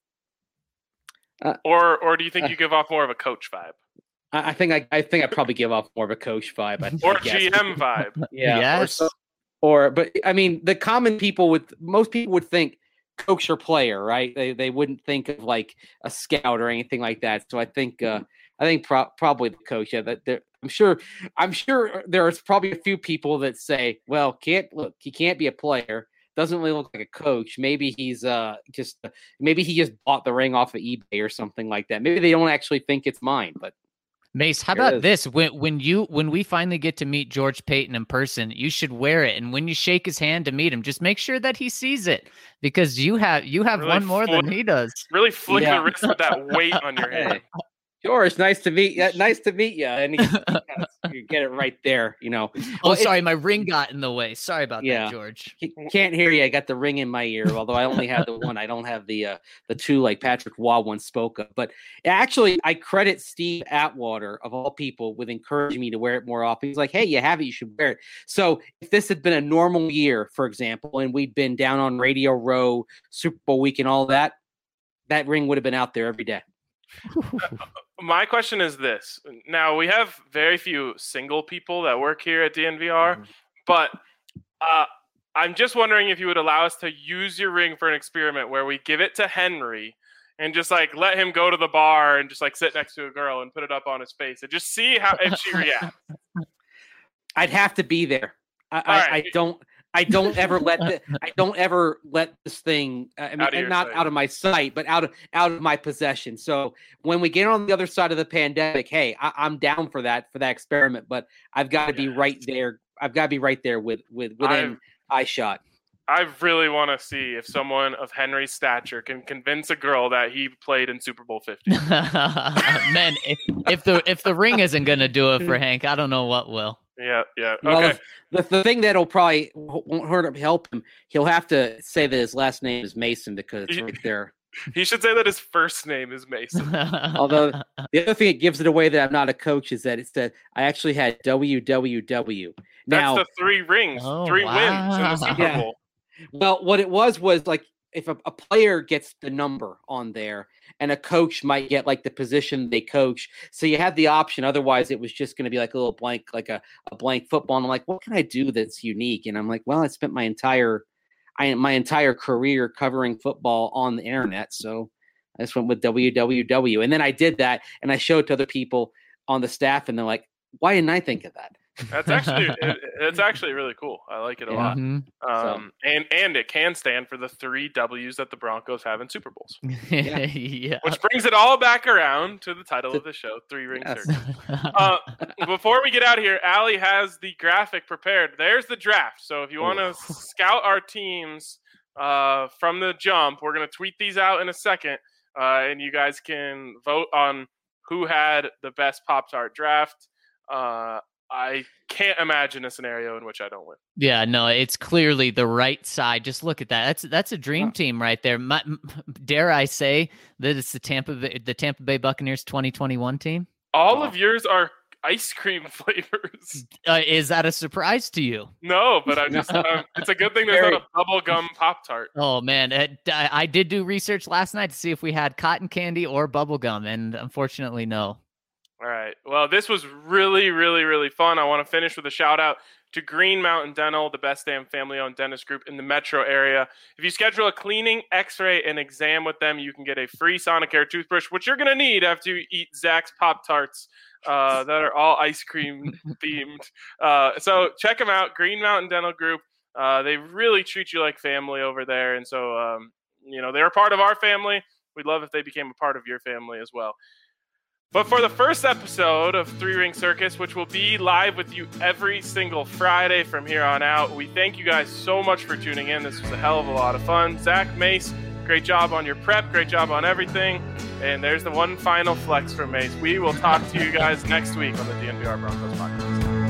Uh, or or do you think uh, you give off more of a coach vibe I, I think I, I think I probably give off more of a coach vibe. I, or I guess. G M vibe? Yeah. Or, Yes. so- or, but I mean, the common people would, most people would think coach or player, right? They they wouldn't think of like a scout or anything like that. So I think, uh, I think pro- probably the coach. Yeah, that there, I'm sure, I'm sure there's probably a few people that say, well, can't look, he can't be a player. Doesn't really look like a coach. Maybe he's uh just, maybe he just bought the ring off of eBay or something like that. Maybe they don't actually think it's mine, but. Mace, how There it about is. this? When when you when we finally get to meet George Payton in person, you should wear it. And when you shake his hand to meet him, just make sure that he sees it because you have you have Really one more than flick- he does. Really flick Yeah. the wrist with that weight on your hand. Hey, George, nice to meet you. Nice to meet you. And he, you get it right there, you know. Oh, Well, it- sorry, my ring got in the way. Sorry about Yeah. that, George. He can't hear you. I got the ring in my ear, although I only have the one. I don't have the uh, the two like Patrick Waugh once spoke of. But actually, I credit Steve Atwater, of all people, with encouraging me to wear it more often. He's like, hey, you have it. You should wear it. So if this had been a normal year, for example, and we'd been down on Radio Row, Super Bowl week and all that, that ring would have been out there every day. My question is this. Now, we have very few single people that work here at D N V R, mm-hmm. but uh, I'm just wondering if you would allow us to use your ring for an experiment where we give it to Henry and just like let him go to the bar and just like sit next to a girl and put it up on his face and just see how if she reacts. I'd have to be there. I, I, right. I don't. I don't ever let the, I don't ever let this thing. I mean, and not sight. out of my sight, but out of out of my possession. So when we get on the other side of the pandemic, hey, I, I'm down for that for that experiment. But I've got to be yes. right there. I've got to be right there with with within eye shot. I really want to see if someone of Henry's stature can convince a girl that he played in Super Bowl fifty. Man, if, if the if the ring isn't going to do it for Hank, I don't know what will. Yeah, yeah. Okay. Well, the, the thing that'll probably won't hurt him, help him, he'll have to say that his last name is Mason because it's right there. He should say that his first name is Mason. Although the other thing that gives it away that I'm not a coach is that it's that I actually had W W W. Now, that's the three rings, oh, three wow. wins in the Super yeah. Bowl. Well, what it was was like if a, a player gets the number on there and a coach might get like the position they coach. So you had the option. Otherwise, it was just going to be like a little blank, like a, a blank football. And I'm like, what can I do that's unique? And I'm like, well, I spent my entire I my entire career covering football on the internet. So I just went with W W W. And then I did that and I showed it to other people on the staff and they're like, why didn't I think of that? That's actually it, it's actually really cool. I like it a yeah. lot. Mm-hmm. Um, so. and and it can stand for the three W's that the Broncos have in Super Bowls. yeah. yeah. Which brings it all back around to the title of the show, Three Ring yes. Circus. uh, before we get out of here, Allie has the graphic prepared. There's the draft. So if you want to scout our teams uh, from the jump, we're going to tweet these out in a second, uh, and you guys can vote on who had the best Pop-Tart draft. Uh, I can't imagine a scenario in which I don't win. Yeah, no, it's clearly the right side. Just look at that. That's that's a dream team right there. My, dare I say that it's the Tampa Bay, the Tampa Bay Buccaneers twenty twenty-one team? All oh. of yours are ice cream flavors. Uh, is that a surprise to you? No, but I just um, it's a good thing there's not a bubblegum Pop-Tart. Oh man, it, I, I did do research last night to see if we had cotton candy or bubblegum, and unfortunately, no. All right. Well, this was really, really, really fun. I want to finish with a shout out to Green Mountain Dental, the best damn family-owned dentist group in the metro area. If you schedule a cleaning, x-ray, and exam with them, you can get a free Sonicare toothbrush, which you're going to need after you eat Zach's Pop-Tarts uh, that are all ice cream themed. Uh, so check them out, Green Mountain Dental Group. Uh, they really treat you like family over there. And so, um, you know, they're a part of our family. We'd love if they became a part of your family as well. But for the first episode of Three Ring Circus, which will be live with you every single Friday from here on out, we thank you guys so much for tuning in. This was a hell of a lot of fun. Zach, Mace, great job on your prep. Great job on everything. And there's the one final flex from Mace. We will talk to you guys next week on the D N V R Broncos podcast.